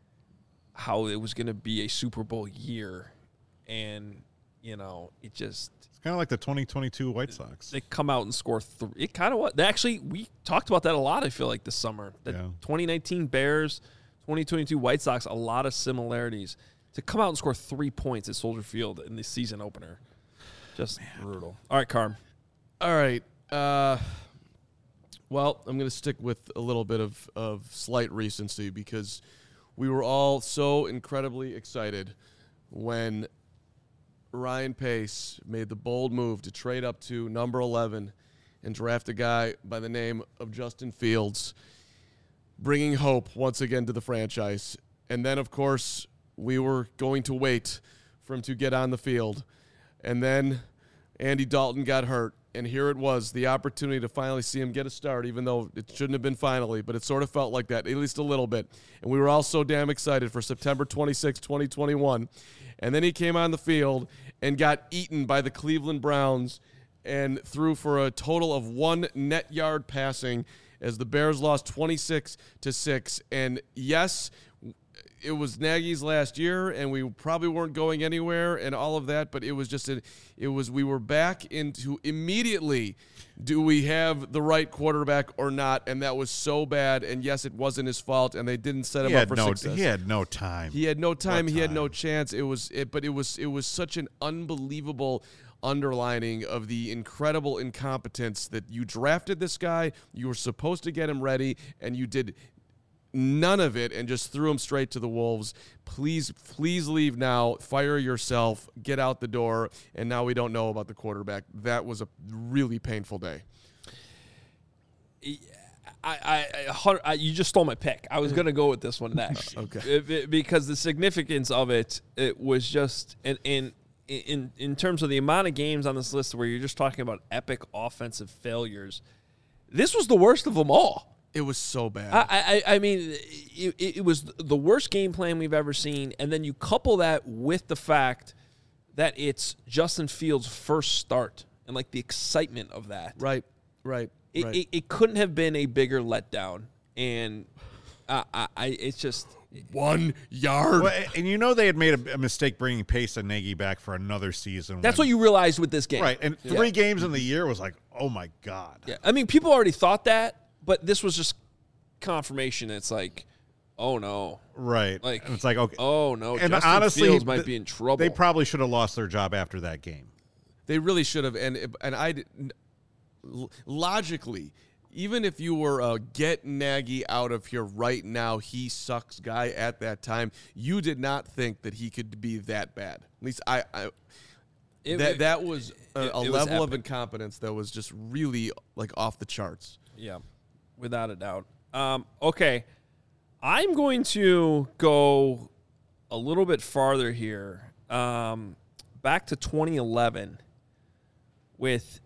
how it was going to be a Super Bowl year, and you know, it just it's kind of like the twenty twenty-two White Sox. They come out and score three. It kind of what actually we talked about that a lot. I feel like this summer, the yeah. twenty nineteen Bears, twenty twenty-two White Sox, a lot of similarities. To come out and score three points at Soldier Field in the season opener, just Man. brutal. All right, Carm. All right. Uh, well, I'm going to stick with a little bit of, of slight recency because we were all so incredibly excited when Ryan Pace made the bold move to trade up to number eleven and draft a guy by the name of Justin Fields, bringing hope once again to the franchise. And then, of course, we were going to wait for him to get on the field. And then Andy Dalton got hurt. And here it was, the opportunity to finally see him get a start, even though it shouldn't have been finally, but it sort of felt like that, at least a little bit. And we were all so damn excited for September twenty-sixth, twenty twenty-one. And then he came on the field and got eaten by the Cleveland Browns and threw for a total of one net yard passing as the Bears lost twenty-six to six. And yes, it was Nagy's last year, and we probably weren't going anywhere and all of that, but it was just, a, it was, we were back into immediately, do we have the right quarterback or not? And that was so bad, and yes, it wasn't his fault, and they didn't set him he up had for no, success. He had no time. He had no time. What He had time? no chance. It was, it, but it was, it was such an unbelievable underlining of the incredible incompetence that you drafted this guy, you were supposed to get him ready, and you did none of it and just threw him straight to the wolves. Please, please leave now. Fire yourself. Get out the door. And now we don't know about the quarterback. That was a really painful day. I, I, I you just stole my pick. I was going to go with this one next. Okay. It, it, because the significance of it, it was just in, in in in terms of the amount of games on this list where you're just talking about epic offensive failures. This was the worst of them all. It was so bad. I, I, I mean, it, it was the worst game plan we've ever seen, and then you couple that with the fact that it's Justin Fields' first start and like the excitement of that. Right, right. It, right. it, it couldn't have been a bigger letdown, and uh, I, I, it's just one yard. Well, and you know they had made a, a mistake bringing Pace and Nagy back for another season. That's when, what you realized with this game, right? And yeah. three games in the year was like, oh my god. Yeah, I mean, people already thought that. But this was just confirmation. It's like, oh no, right? Like and it's like, okay, oh no. And Justin honestly, Fields might th- be in trouble. They probably should have lost their job after that game. They really should have. And and I logically, even if you were a get Nagy out of here right now, he sucks guy at that time, you did not think that he could be that bad. At least I. I It, that it, that was a, it, a it level was of incompetence that was just really like off the charts. Yeah, without a doubt. Um, okay, I'm going to go a little bit farther here, um, back to twenty eleven, with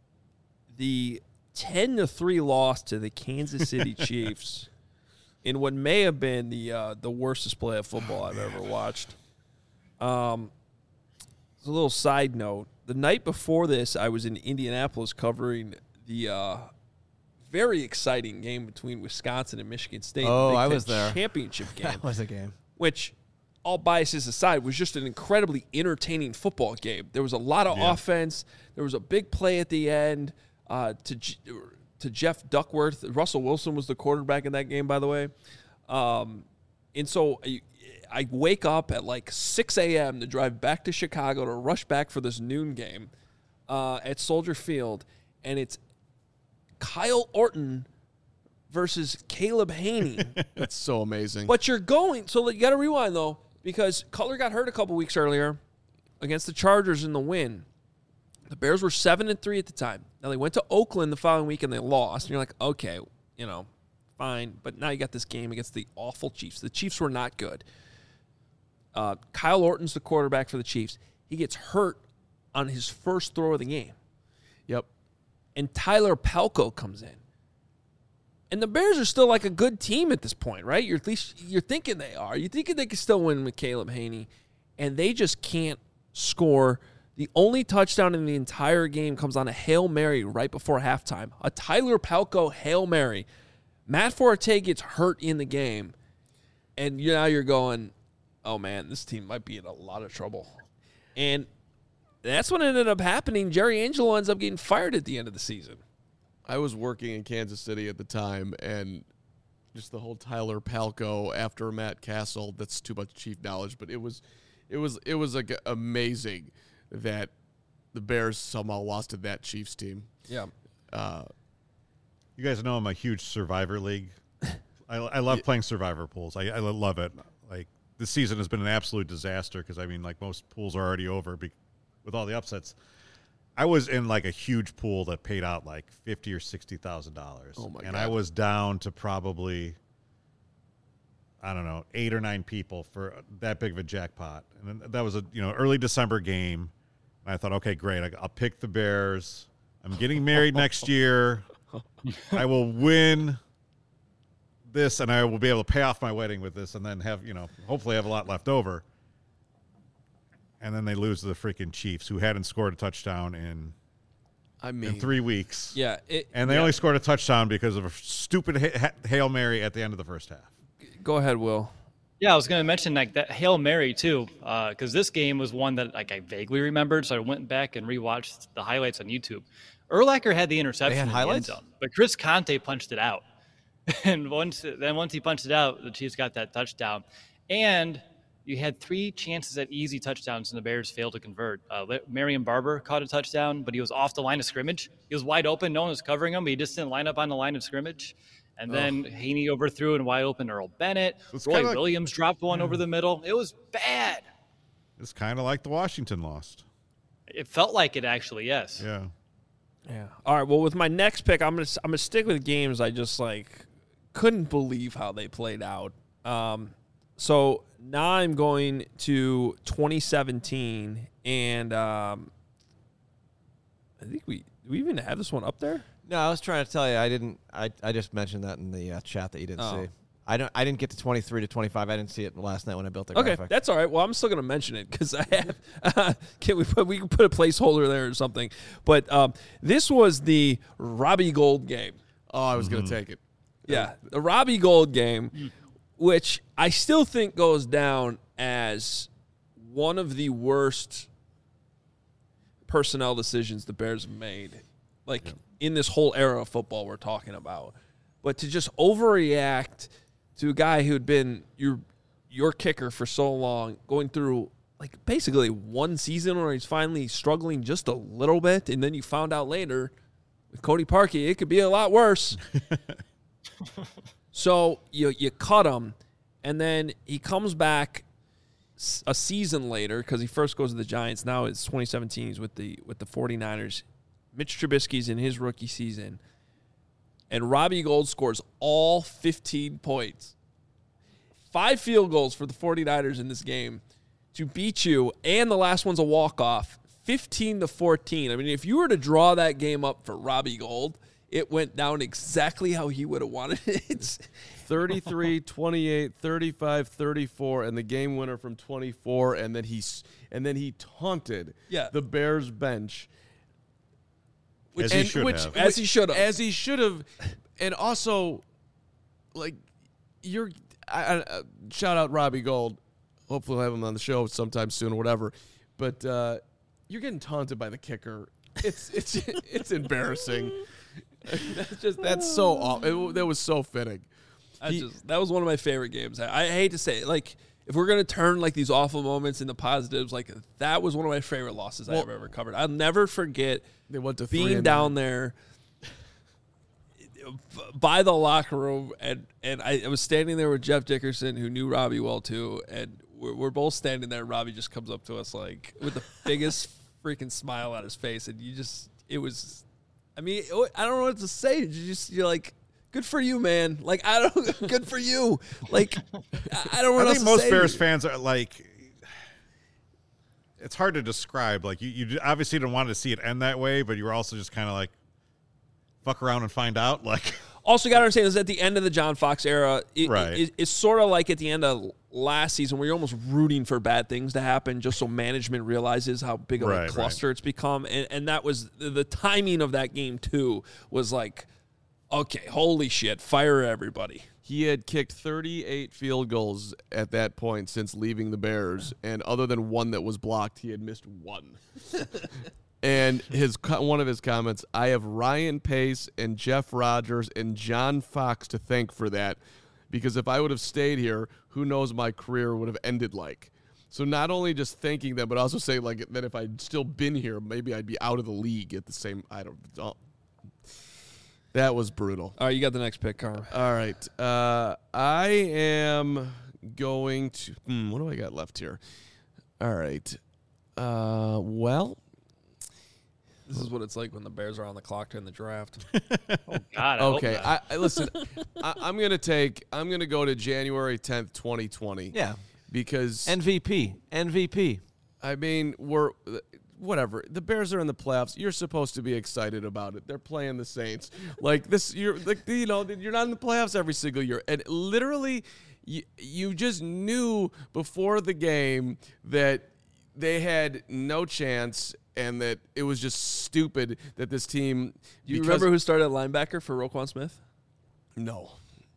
the ten to three loss to the Kansas City Chiefs in what may have been the uh, the worst display of football I've ever watched. Um, as a little side note, the night before this, I was in Indianapolis covering the uh, very exciting game between Wisconsin and Michigan State. Oh, the Big I Ten was there. Championship game. That was a game. Which, all biases aside, was just an incredibly entertaining football game. There was a lot of Yeah. offense. There was a big play at the end uh, to G- to Jeff Duckworth. Russell Wilson was the quarterback in that game, by the way. Um, and so I, I wake up at like six a.m. to drive back to Chicago to rush back for this noon game uh, at Soldier Field, and it's Kyle Orton versus Caleb Haney. That's so amazing. But you're going, so you got to rewind though, because Cutler got hurt a couple weeks earlier against the Chargers in the win. The Bears were seven and three at the time. Now they went to Oakland the following week and they lost. And you're like, okay, you know, fine. But now you got this game against the awful Chiefs. The Chiefs were not good. Uh, Kyle Orton's the quarterback for the Chiefs. He gets hurt on his first throw of the game. Yep. And Tyler Palko comes in. And the Bears are still like a good team at this point, right? You're at least you're thinking they are. You're thinking they can still win with Caleb Haney, and they just can't score The only touchdown in the entire game comes on a Hail Mary right before halftime. A Tyler Palko Hail Mary. Matt Forte gets hurt in the game, and now you're going, oh, man, this team might be in a lot of trouble. And that's what ended up happening. Jerry Angelo ends up getting fired at the end of the season. I was working in Kansas City at the time, and just the whole Tyler Palko after Matt Castle, that's too much Chief knowledge, but it was it was, it was like amazing that the Bears somehow lost to that Chiefs team. Yeah. Uh, you guys know I'm a huge Survivor League. I, I love Yeah. playing Survivor pools. I, I love it. Like, this season has been an absolute disaster because, I mean, like, most pools are already over be- with all the upsets. I was in, like, a huge pool that paid out, like, fifty thousand dollars or sixty thousand dollars. Oh, my and God. I was down to probably, I don't know, eight or nine people for that big of a jackpot. And then that was a, you know, early December game. And I thought, okay, great. I, I'll pick the Bears. I'm getting married next year. I will win this, and I will be able to pay off my wedding with this, and then have, you know, hopefully have a lot left over. And then they lose to the freaking Chiefs, who hadn't scored a touchdown in I mean, in three weeks. Yeah. It, And they yeah. only scored a touchdown because of a stupid ha- ha- Hail Mary at the end of the first half. Go ahead, Will. Yeah, I was going to mention like that Hail Mary too, because this game was one that like I vaguely remembered, so I went back and rewatched the highlights on YouTube. Urlacher had the interception They had in the highlights? end zone, but Chris Conte punched it out, and once then once he punched it out, the Chiefs got that touchdown, and you had three chances at easy touchdowns, and the Bears failed to convert. Uh, Marion Barber caught a touchdown, but he was off the line of scrimmage. He was wide open, no one was covering him, but he just didn't line up on the line of scrimmage. And then Haney overthrew and wide open Earl Bennett. It's Roy kinda like- Williams dropped one over the middle. It was bad. It's kind of like the Washington lost. It felt like it actually, yes. Yeah. Yeah. All right. Well, with my next pick, I'm gonna I'm gonna stick with games I just like couldn't believe how they played out. Um, so now I'm going to twenty seventeen, and um, I think we do we even have this one up there. No, I was trying to tell you. I didn't. I, I just mentioned that in the uh, chat that you didn't Oh. see. I don't. I didn't get to twenty-three to twenty-five. I didn't see it last night when I built the Okay, graphic. that's all right. Well, I'm still going to mention it because I have. Uh, can we put we can put a placeholder there or something? But um, this was the Robbie Gould game. oh, I was going to take it. Yeah, the Robbie Gould game, which I still think goes down as one of the worst personnel decisions the Bears have made, like in this whole era of football we're talking about. But to just overreact to a guy who had been your your kicker for so long, going through like basically one season where he's finally struggling just a little bit, and then you found out later with Cody Parkey it could be a lot worse. So you you cut him, and then he comes back s- a season later because he first goes to the Giants. Now it's twenty seventeen. He's with the with the 49ers. Mitch Trubisky's in his rookie season, and Robbie Gould scores all fifteen points. Five field goals for the 49ers in this game to beat you, and the last one's a walk-off, fifteen to fourteen. I mean, if you were to draw that game up for Robbie Gould, it went down exactly how he would have wanted it. thirty-three, twenty-eight, thirty-five, thirty-four, and the game winner from twenty-four, and then he s- and then he taunted Yeah. the Bears bench. As he And should which- have. As he should have. As he should have. And also, like, you're I, I, uh, shout out Robbie Gould. Hopefully we'll have him on the show sometime soon or whatever. But uh, you're getting taunted by the kicker. It's it's it's embarrassing. That's just that's so aw- it, that was so fitting. I He- just, that was one of my favorite games. I, I hate to say it. Like, if we're going to turn, like, these awful moments into positives, like, that was one of my favorite losses Well- I've ever covered. I'll never forget They went to three being and down there by the locker room, and, and I, I was standing there with Jeff Dickerson, who knew Robbie well, too, and we're, we're both standing there. Robbie just comes up to us, like, with the biggest freaking smile on his face, and you just, it was, I mean, I don't know what to say. You just, you're like, good for you, man. Like, I don't, good for you. Like, I I don't know what I else think to most say. Bears fans are like, it's hard to describe. Like, you, you obviously didn't want to see it end that way, but you were also just kind of like, fuck around and find out. Like, Also, you got to understand, this is at the end of the John Fox era. It, Right. it, it's sort of like at the end of last season where you're almost rooting for bad things to happen just so management realizes how big of Right, a cluster right. it's become. And, and that was the, the timing of that game, too, was like, okay, holy shit, fire everybody. He had kicked thirty-eight field goals at that point since leaving the Bears, and other than one that was blocked, he had missed one. And his one of his comments, I have Ryan Pace and Jeff Rodgers and John Fox to thank for that, because if I would have stayed here, who knows my career would have ended like. So not only just thanking them, but also saying like that if I'd still been here, maybe I'd be out of the league at the same. I don't. don't that was brutal. All right, you got the next pick, Carm. All right, uh, I am going to. Hmm, what do I got left here? All right. Uh, well. This is what it's like when the Bears are on the clock during the draft. Oh God. I hope Okay, not. I, I listen. I, I'm gonna take. I'm gonna go to January tenth, twenty twenty. Yeah. Because M V P. M V P. I mean, we're whatever. The Bears are in the playoffs. You're supposed to be excited about it. They're playing the Saints. Like this, you're like you know, you're not in the playoffs every single year, and literally, you you just knew before the game that they had no chance. And that it was just stupid that this team. Do you remember who started at linebacker for Roquan Smith? No.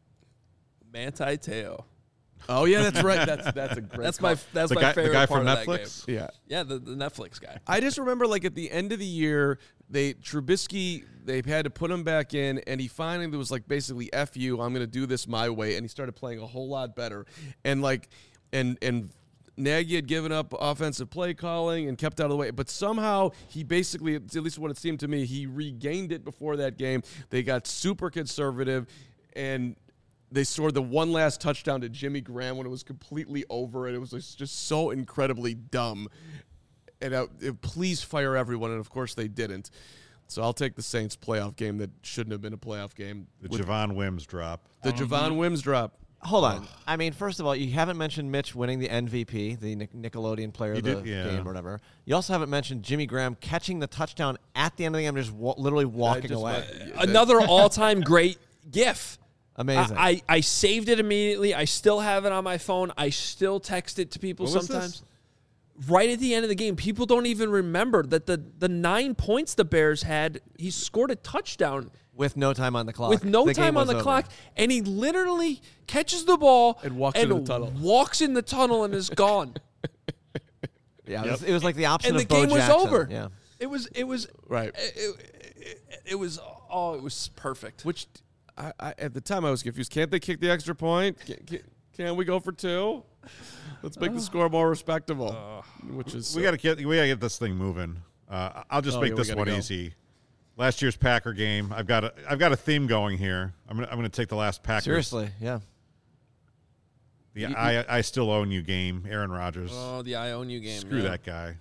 Manti Te'o. Oh yeah, that's right. That's that's a great. That's my call. that's The my guy, favorite the guy part from of that Netflix. game. Yeah. Yeah, the, the Netflix guy. I just remember, like at the end of the year, they Trubisky they had to put him back in, and he finally was like basically "F you, I'm going to do this my way," and he started playing a whole lot better, and like, and and. Nagy had given up offensive play calling and kept out of the way, but somehow he basically, at least what it seemed to me, he regained it before that game. They got super conservative, and they scored the one last touchdown to Jimmy Graham when it was completely over, and it was just so incredibly dumb. And uh, please fire everyone, and of course they didn't. So I'll take the Saints playoff game that shouldn't have been a playoff game. The with Javon Wims drop. the Javon Wims drop. Hold on. I mean, first of all, you haven't mentioned Mitch winning the M V P, the Nic- Nickelodeon player He of the did, yeah. game or whatever. You also haven't mentioned Jimmy Graham catching the touchdown at the end of the game, just wa- literally walking just away. went- Another all-time great GIF. Amazing. I, I, I saved it immediately. I still have it on my phone. I still text it to people What was sometimes. this? Right at the end of the game, people don't even remember that the, the nine points the Bears had, he scored a touchdown With no time on the clock. with no The game time on was the over. clock, and he literally catches the ball And walks into the tunnel. walks in the tunnel and is gone. Yeah, it, was, it was like the opposite and the of Bo game was Jackson. over. Yeah. It was it was Right. It, it, it was oh, it was perfect. Which I, I, at the time I was confused. Can't they kick the extra point? Can, can, can we go for two? Let's make the score more respectable. Which is We got to get we got to get this thing moving. Uh, I'll just Oh, make yeah, we this gotta one go. easy. Last year's Packer game. I've got a I've got a theme going here. I'm gonna I'm gonna take the last Packers. Seriously, yeah. The I I still own you game. Aaron Rodgers. Oh, the I own you game. Screw yeah. that guy.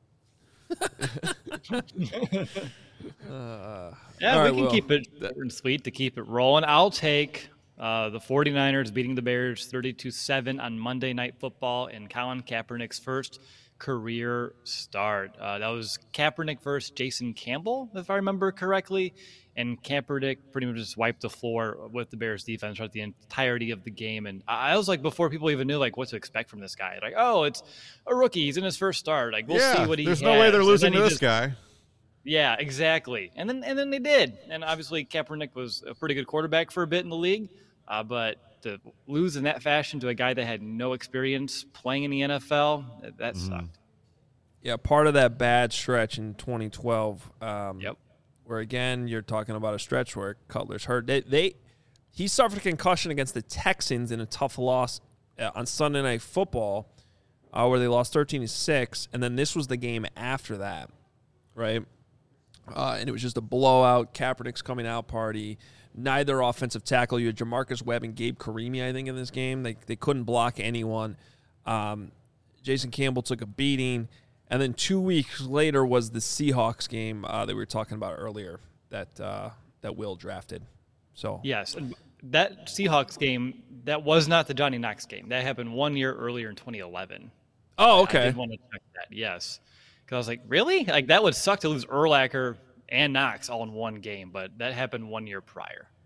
Yeah, All we right, can Will. keep it short and sweet to keep it rolling. I'll take uh, the 49ers beating the Bears thirty-two seven on Monday Night Football in Colin Kaepernick's first career start. Uh, that was Kaepernick versus Jason Campbell, if I remember correctly. And Kaepernick pretty much just wiped the floor with the Bears defense throughout the entirety of the game. And I was like, before people even knew like what to expect from this guy, like, oh, it's a rookie. He's in his first start. Like, we'll yeah, see what he there's has. no way they're And losing then to he this just- guy. Yeah, exactly. And then and then they did. And obviously Kaepernick was a pretty good quarterback for a bit in the league. Uh, but to lose in that fashion to a guy that had no experience playing in the N F L, that, that Mm-hmm. sucked. Yeah, part of that bad stretch in twenty twelve. Um, Yep. Where again, you're talking about a stretch where Cutler's hurt. They, they he suffered a concussion against the Texans in a tough loss uh, on Sunday Night Football, uh, where they lost thirteen to six, and then this was the game after that, right? Uh, and it was just a blowout. Kaepernick's coming out party. Neither offensive tackle. You had Jamarcus Webb and Gabe Karimi, I think, in this game. They they couldn't block anyone. Um, Jason Campbell took a beating. And then two weeks later was the Seahawks game uh, that we were talking about earlier that uh, that Will drafted. So Yes. And that Seahawks game, that was not the Johnny Knox game. That happened one year earlier in twenty eleven. Oh, I okay. did want to check that, yes. Because I was like, really? Like, that would suck to lose Urlacher and Knox all in one game, but that happened one year prior.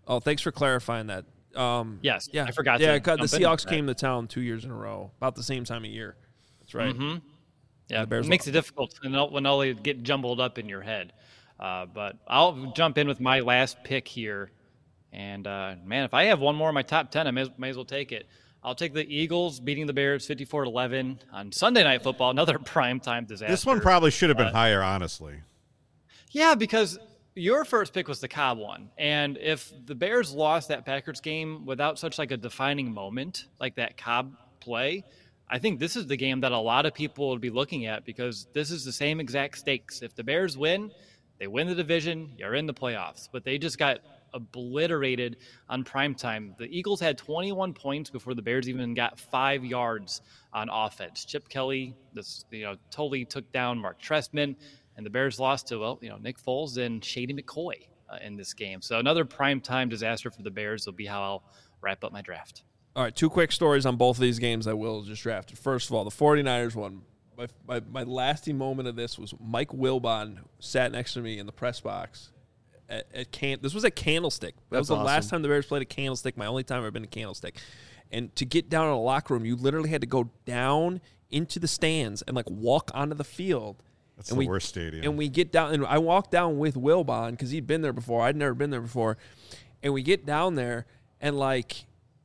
Oh, thanks for clarifying that. Um, Yes, yeah, I forgot Yeah, to 'cause the jump in. Seahawks came to town two years in a row, about the same time of year. That's right. Mm-hmm. Yeah, the Bears it makes lost. it difficult when all, when all they get jumbled up in your head. Uh, but I'll jump in with my last pick here. And, uh, man, if I have one more in my top ten, I may, may as well take it. I'll take the Eagles beating the Bears fifty-four to eleven on Sunday Night Football, another primetime disaster. This one probably should have been higher, honestly. Yeah, because your first pick was the Cobb one. And if the Bears lost that Packers game without such like a defining moment like that Cobb play, I think this is the game that a lot of people would be looking at because this is the same exact stakes. If the Bears win, they win the division, you're in the playoffs. But they just got obliterated on primetime. The Eagles had twenty-one points before the Bears even got five yards on offense. Chip Kelly, this you know, totally took down Mark Trestman, and the Bears lost to well, you know, Nick Foles and Shady McCoy uh, in this game. So another primetime disaster for the Bears will be how I'll wrap up my draft. All right, two quick stories on both of these games I will just drafted. First of all, the 49ers one. My, my, my lasting moment of this was Mike Wilbon sat next to me in the press box at, at Can. This was at Candlestick. That That's was the awesome. last time the Bears played at Candlestick. My only time I've ever been to Candlestick. And to get down in a locker room, you literally had to go down into the stands and like walk onto the field. That's and the we, worst stadium. And we get down, and I walked down with Wilbon because he'd been there before. I'd never been there before. And we get down there, and like,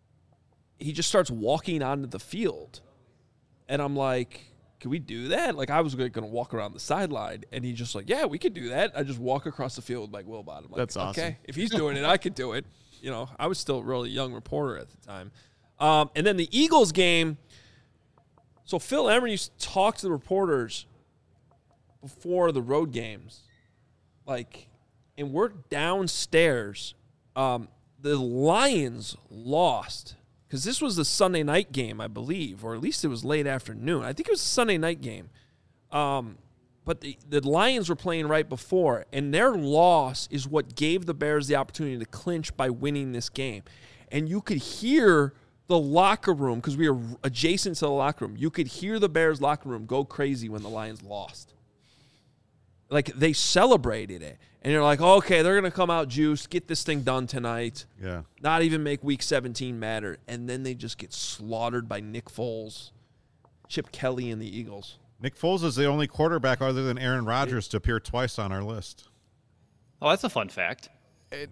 he just starts walking onto the field. And I'm like, can we do that? Like, I was going to walk around the sideline, and he's just like, yeah, we could do that. I just walk across the field like Wilbon. I'm like, That's awesome. Okay, if he's doing it, I could do it. You know, I was still a really young reporter at the time. Um, and then the Eagles game, so Phil Emery used to talk to the reporters before the road games. Like, and we're downstairs. Um, the Lions lost. Because this was the Sunday night game, I believe, or at least it was late afternoon. I think it was a Sunday night game. Um, but the, the Lions were playing right before, and their loss is what gave the Bears the opportunity to clinch by winning this game. And you could hear the locker room, because we were adjacent to the locker room, you could hear the Bears locker room go crazy when the Lions lost. Like, they celebrated it. And you're like, okay, they're going to come out juiced, get this thing done tonight. Yeah. Not even make week seventeen matter. And then they just get slaughtered by Nick Foles, Chip Kelly, and the Eagles. Nick Foles is the only quarterback other than Aaron Rodgers to appear twice on our list. Oh, that's a fun fact. It,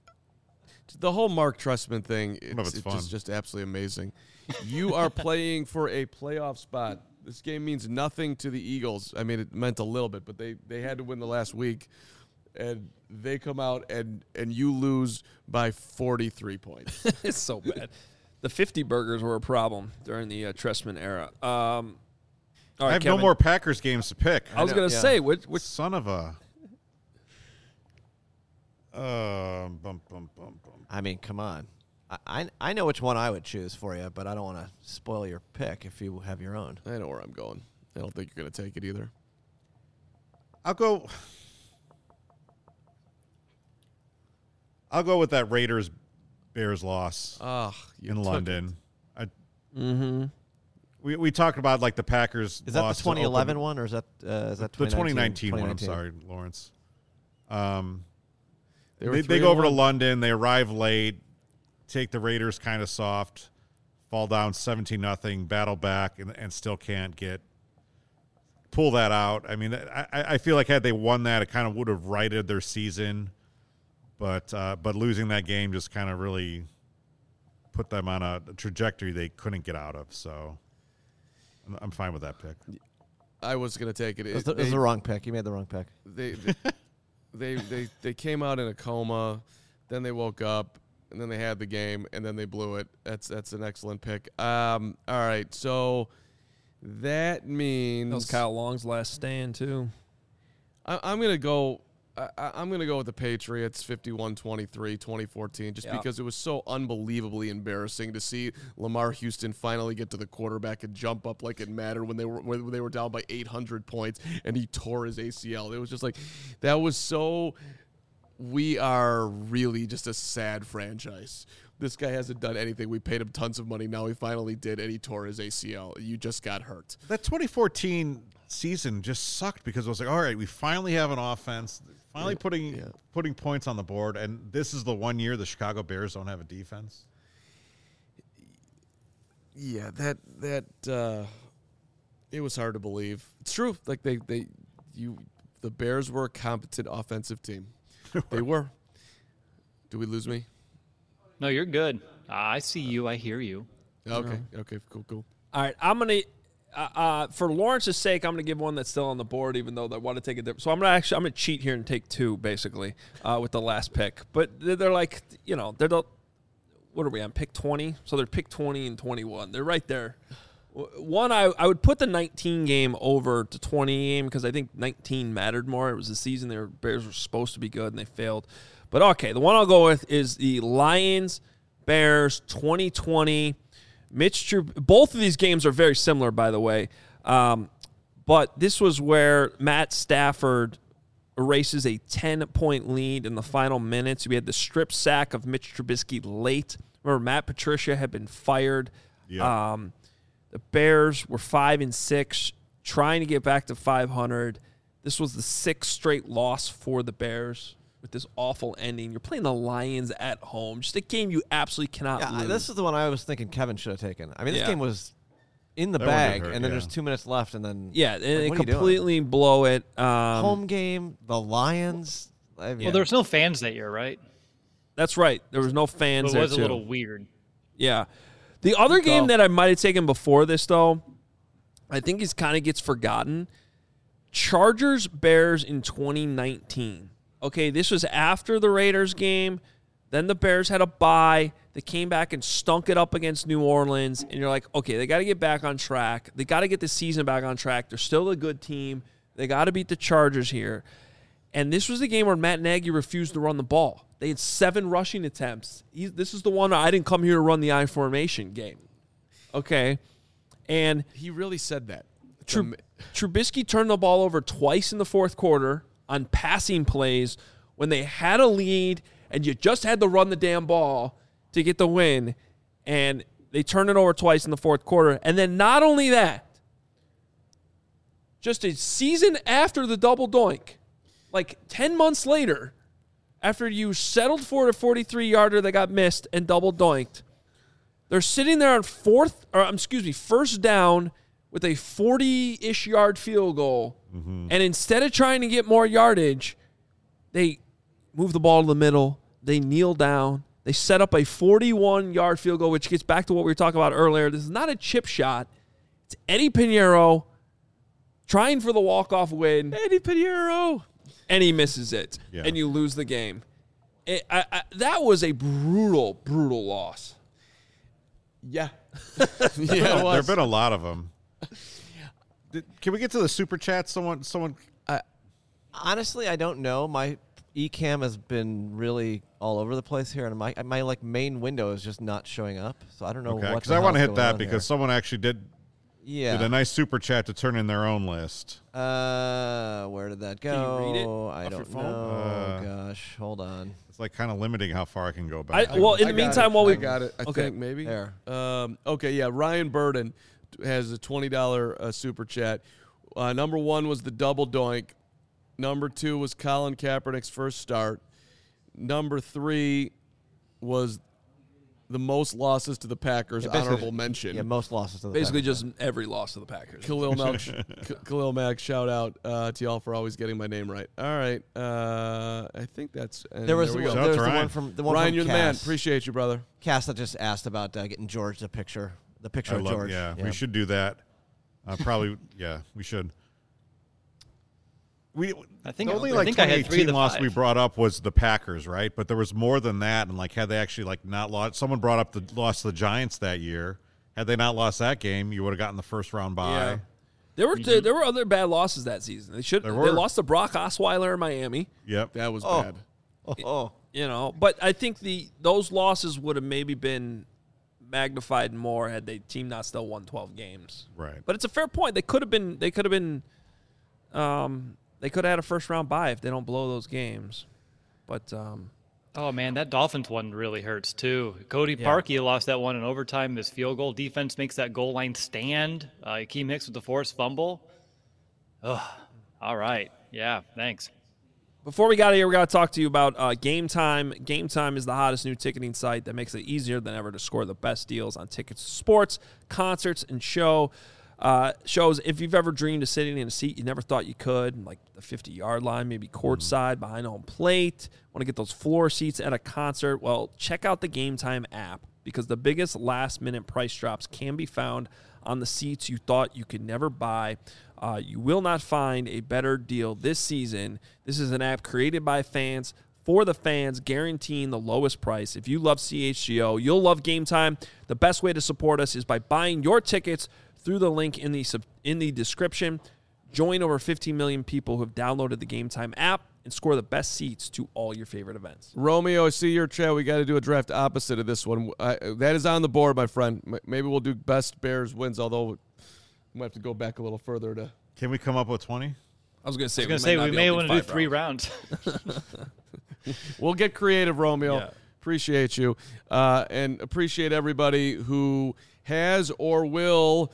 the whole Mark Trestman thing, Some of it's, it's it's fun. just, just absolutely amazing. You are playing for a playoff spot. This game means nothing to the Eagles. I mean, it meant a little bit, but they, they had to win the last week. And they come out and, and you lose by forty-three points. It's so bad. The fifty burgers were a problem during the uh, Trestman era. Um, all right, I have Kevin, no more Packers games to pick. I was going to yeah. say, which, which Son of a. Uh, bum, bum, bum, bum. I mean, come on. I, I I know which one I would choose for you, but I don't want to spoil your pick if you have your own. I know where I'm going. I don't think you're going to take it either. I'll go. I'll go with that Raiders Bears loss Ah, you in took London. I, mm-hmm. we we talked about like the Packers. Is that loss the to twenty eleven open- one, or is that uh, is that The twenty nineteen one. I'm 2019? sorry, Lawrence. Um, They, were they, three they go and over to one. London. They arrive late. Take the Raiders kind of soft. Fall down seventeen nothing. Battle back and, and still can't get pull that out. I mean, I, I feel like had they won that, it kind of would have righted their season. But uh, but losing that game just kind of really put them on a trajectory they couldn't get out of. So I'm, I'm fine with that pick. I was going to take it. It was, It- the, it was they- the wrong pick. You made the wrong pick. they they, they they they came out in a coma, then they woke up, and then they had the game, and then they blew it. That's that's an excellent pick. Um, all right, so that means That was Kyle Long's last stand, too. I, I'm gonna go. I, I- I'm gonna go with the Patriots, fifty-one twenty-three, twenty fourteen, just Yeah. because it was so unbelievably embarrassing to see Lamar Houston finally get to the quarterback and jump up like it mattered when they were when they were down by eight hundred points, and he tore his A C L. It was just like that was so we are really just a sad franchise. This guy hasn't done anything. We paid him tons of money. Now he finally did, and he tore his A C L. You just got hurt. That twenty fourteen season just sucked because it was like, all right, we finally have an offense, finally Yeah. putting Yeah. putting points on the board, and this is the one year the Chicago Bears don't have a defense. Yeah, that that uh, it was hard to believe. It's true. Like they they you the Bears were a competent offensive team. They were. Do we lose me? No, you're good. I see you. I hear you. Okay. Okay. Cool. Cool. All right, I'm gonna uh, uh, for Lawrence's sake, I'm gonna give one that's still on the board, even though they want to take a different. So I'm gonna actually I'm gonna cheat here and take two basically uh, with the last pick. But they're, they're like you know they're the what are we on pick twenty? So they're pick twenty and twenty-one. They're right there. One, I I would put the nineteen game over to twenty game because I think nineteen mattered more. It was the season their Bears were supposed to be good and they failed. But okay, the one I'll go with is the Lions Bears twenty twenty. Mitch Trub- both of these games are very similar, by the way. Um, but this was where Matt Stafford erases a ten-point lead in the final minutes. We had the strip sack of Mitch Trubisky late. Remember, Matt Patricia had been fired. Yeah. Um, the Bears were five and six, trying to get back to five hundred. This was the sixth straight loss for the Bears with this awful ending. You're playing the Lions at home. Just a game you absolutely cannot Yeah, I- lose. this is the one I was thinking Kevin should have taken. I mean, this Yeah. game was in the That one did bag, hurt, and then yeah. there's two minutes left, and then yeah, and like, they what are you doing? completely blow it. Um, Home game, the Lions. I mean, Well, there was no fans that year, right? That's right. There was no So fans it there was a too. little weird. Yeah. The other game call. that I might have taken before this, though, I think is kind of gets forgotten. Chargers Bears in twenty nineteen. Okay, this was after the Raiders game. Then the Bears had a bye. They came back and stunk it up against New Orleans. And you're like, okay, they got to get back on track. They got to get the season back on track. They're still a good team. They got to beat the Chargers here. And this was the game where Matt Nagy refused to run the ball. They had seven rushing attempts. He, this is the one I didn't come here to run the I formation game. Okay. And He really said that. Trub- Trubisky turned the ball over twice in the fourth quarter on passing plays when they had a lead and you just had to run the damn ball to get the win. And they turned it over twice in the fourth quarter. And then not only that, just a season after the double doink, like ten months later, after you settled for a forty-three yarder that got missed and double doinked, they're sitting there on fourth, or um, excuse me, first down with a forty-ish yard field goal. Mm-hmm. And instead of trying to get more yardage, they move the ball to the middle. They kneel down. They set up a forty-one yard field goal, which gets back to what we were talking about earlier. This is not a chip shot. It's Eddie Pinheiro trying for the walk-off win. Eddie Pinheiro. And he misses it. Yeah. And you lose the game. It, I, I, that was a brutal, brutal loss. Yeah. Yeah, yeah. there have been a lot of them. Did, can we get to the super chat? Someone, someone. honestly, I don't know. My eCam has been really all over the place here, and my my like main window is just not showing up. So I don't know Okay, what. because I want to hit that because someone actually did yeah. did a nice super chat to turn in their own list. Uh, where did that go? Can you read it I off your don't phone? know. Uh, gosh, hold on. It's like kind of limiting how far I can go I, back. well, in I the got meantime, it. while we I got it. I Okay. think maybe There. Um, okay, yeah. Ryan Burden has a twenty dollar uh, super chat. Uh, number one was the double doink. Number two was Colin Kaepernick's first start. Number three was the most losses to the Packers. Yeah, basically- honorable mention. Yeah, most losses to the basically Packers. just every loss to the Packers. Khalil Mack, K- Khalil Mack, shout out uh, to y'all for always getting my name right. All right, uh, I think that's. And There was we the, go. Shout out there was to the Ryan. one from the one Ryan, from you're the man. Cass. Appreciate you, brother. Cass that just asked about uh, getting George the picture, the picture I of love, George. yeah, we should do that. Uh, probably, yeah, we should. We I think the I- only I like think I had three of twenty eighteen the loss five. we brought up was the Packers, right? But there was more than that, and like had they actually like not lost, someone brought up the loss to the Giants that year. Had they not lost that game, you would have gotten the first round bye. Yeah. There were there were other bad losses that season. They should There they were. lost to Brock Osweiler in Miami. Yep. That was Oh. bad. Oh, oh. You know, but I think the those losses would have maybe been magnified more had they team not still won twelve games. Right. But it's a fair point. They could have been they could have been um they could have had a first round bye if they don't blow those games. But um, oh, man, that Dolphins one really hurts, too. Cody Yeah. Parkey lost that one in overtime. This field goal defense makes that goal line stand. Uh, Akeem Hicks with the forced fumble. Ugh. All right. Yeah, thanks. before we got here, we got to talk to you about uh, Game Time. Game Time is the hottest new ticketing site that makes it easier than ever to score the best deals on tickets to sports, concerts, and show uh, shows. If you've ever dreamed of sitting in a seat you never thought you could, like the fifty-yard line, maybe courtside, behind home plate, want to get those floor seats at a concert, well, check out the Game Time app, because the biggest last-minute price drops can be found on the seats you thought you could never buy. Uh, you will not find a better deal this season. This is an app created by fans for the fans, guaranteeing the lowest price. If you love C H G O, you'll love Game Time. The best way to support us is by buying your tickets through the link in the sub- in the description. Join over fifteen million people who have downloaded the Game Time app and score the best seats to all your favorite events. Romeo, I see your chat. We got to do a draft opposite of this one. I, that is on the board, my friend. M- Maybe we'll do best Bears wins, although we might have to go back a little further to. Can we come up with twenty? I was going to say, I was going to say, we may want to do three rounds. We'll get creative, Romeo. Yeah. Appreciate you. Uh, and appreciate everybody who has or will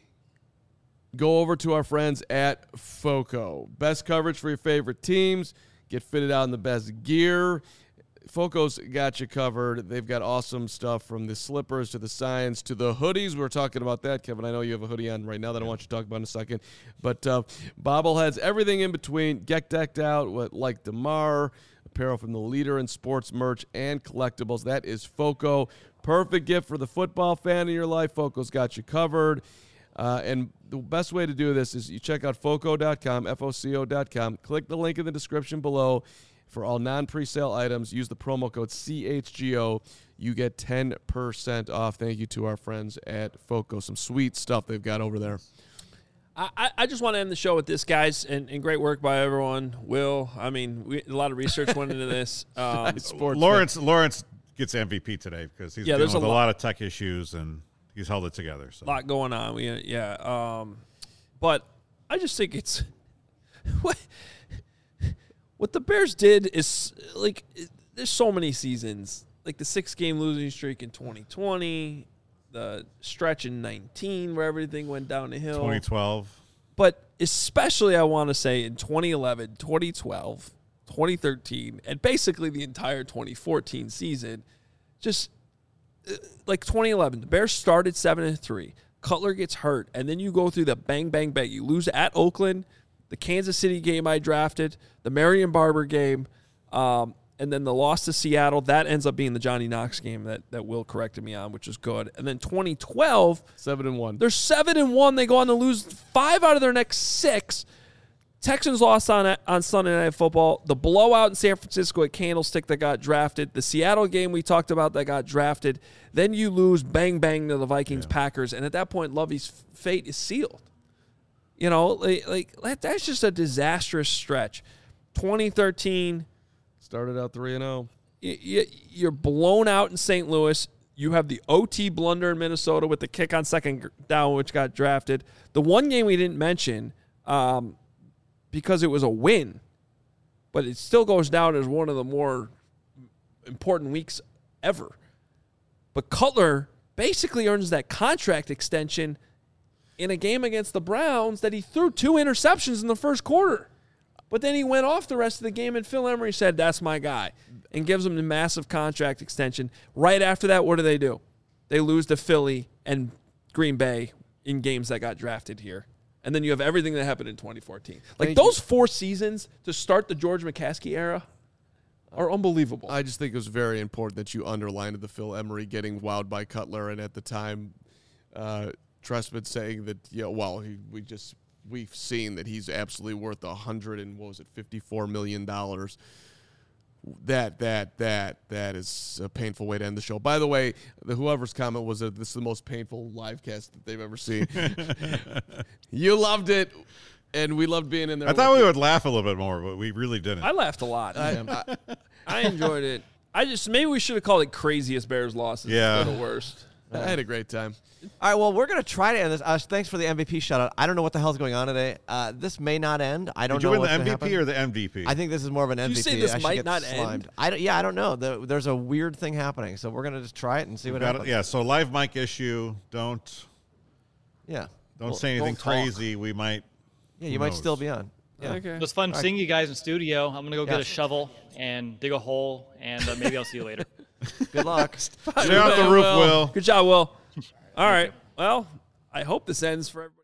go over to our friends at Foco. Best coverage for your favorite teams. Get fitted out in the best gear. Foco's got you covered. They've got awesome stuff from the slippers to the signs to the hoodies. We were talking about that, Kevin. I know you have a hoodie on right now that I want you to talk about in a second. But uh, bobbleheads, everything in between. Get decked out with, like DeMar, apparel from the leader in sports merch and collectibles. That is Foco. Perfect gift for the football fan in your life. Foco's got you covered. Uh, and the best way to do this is you check out foco dot com, F O C O dot com. Click the link in the description below. For all non-presale items, use the promo code C H G O. You get ten percent off. Thank you to our friends at Foco. Some sweet stuff they've got over there. I, I just want to end the show with this, guys, and, and great work by everyone. Will, I mean, we, a lot of research went into this. Um, Sports Lawrence Lawrence gets M V P today because he's Yeah, dealing there's with a a lot- lot of tech issues and he's held it together. So. lot going on. We yeah. Um, but I just think it's what what the Bears did is like it, there's so many seasons, like the six game losing streak in twenty twenty, the stretch in nineteen where everything went down the hill. twenty twelve. But especially I want to say in twenty eleven, twenty twelve, twenty thirteen, and basically the entire twenty fourteen season, just uh, like twenty eleven, the Bears started seven and three. Cutler gets hurt, and then you go through the bang, bang, bang. You lose at Oakland, the Kansas City game I drafted, the Marion Barber game, um, and then the loss to Seattle. That ends up being the Johnny Knox game that, that Will corrected me on, which is good. And then twenty twelve, Seven and one. they're seven and one. They go on to lose five out of their next six. Texans lost on on Sunday Night Football. The blowout in San Francisco at Candlestick that got drafted. The Seattle game we talked about that got drafted. Then you lose bang bang to the Vikings Yeah. Packers, and at that point, Lovey's fate is sealed. You know, like, like that's just a disastrous stretch. twenty thirteen, Started out three and oh. y- y- you're blown out in Saint Louis. You have the O T blunder in Minnesota with the kick on second down, which got drafted. The one game we didn't mention, um, because it was a win, but it still goes down as one of the more important weeks ever. But Cutler basically earns that contract extension in a game against the Browns that he threw two interceptions in the first quarter. But then he went off the rest of the game, and Phil Emery said, that's my guy, and gives him the massive contract extension. Right after that, what do they do? They lose to Philly and Green Bay in games that got drafted here. And then you have everything that happened in twenty fourteen. Like, Thank those four seasons to start the George McCaskey era are unbelievable. I just think it was very important that you underlined the Phil Emery getting wowed by Cutler, and at the time, uh, Trestman saying that, yeah, well, he, we just we've seen that he's absolutely worth a hundred and what was it, fifty-four million dollars. That that that that is a painful way to end the show. By the way, the whoever's comment was that this is the most painful live cast that they've ever seen. You loved it, and we loved being in there. I thought with we you. would laugh a little bit more, but we really didn't. I laughed a lot. I, I, I, I enjoyed it. I just maybe we should have called it craziest Bears losses Yeah. instead of worst. I had a great time. All right, well, we're going to try to end this. Uh, thanks for the M V P shout-out. I don't know what the hell's going on today. Uh, this may not end. I don't Did you know win what's the gonna M V P happen. or the M V P? I think this is more of an M V P. you say this I should might get not slimed. end? I don't, yeah, I don't know. The, there's a weird thing happening, so we're going to just try it and see what Got it. happens. Yeah, so live mic issue. Don't Yeah. don't Well, say anything talk. crazy. We might. Yeah, who you might knows? still be on. Yeah. Okay. It was fun seeing you guys in studio. I'm going to go Yeah. get a shovel and dig a hole, and uh, maybe I'll see you later. Good luck. Stay off the roof, Will. Good job, Will. All right. Well, I hope this ends for everybody.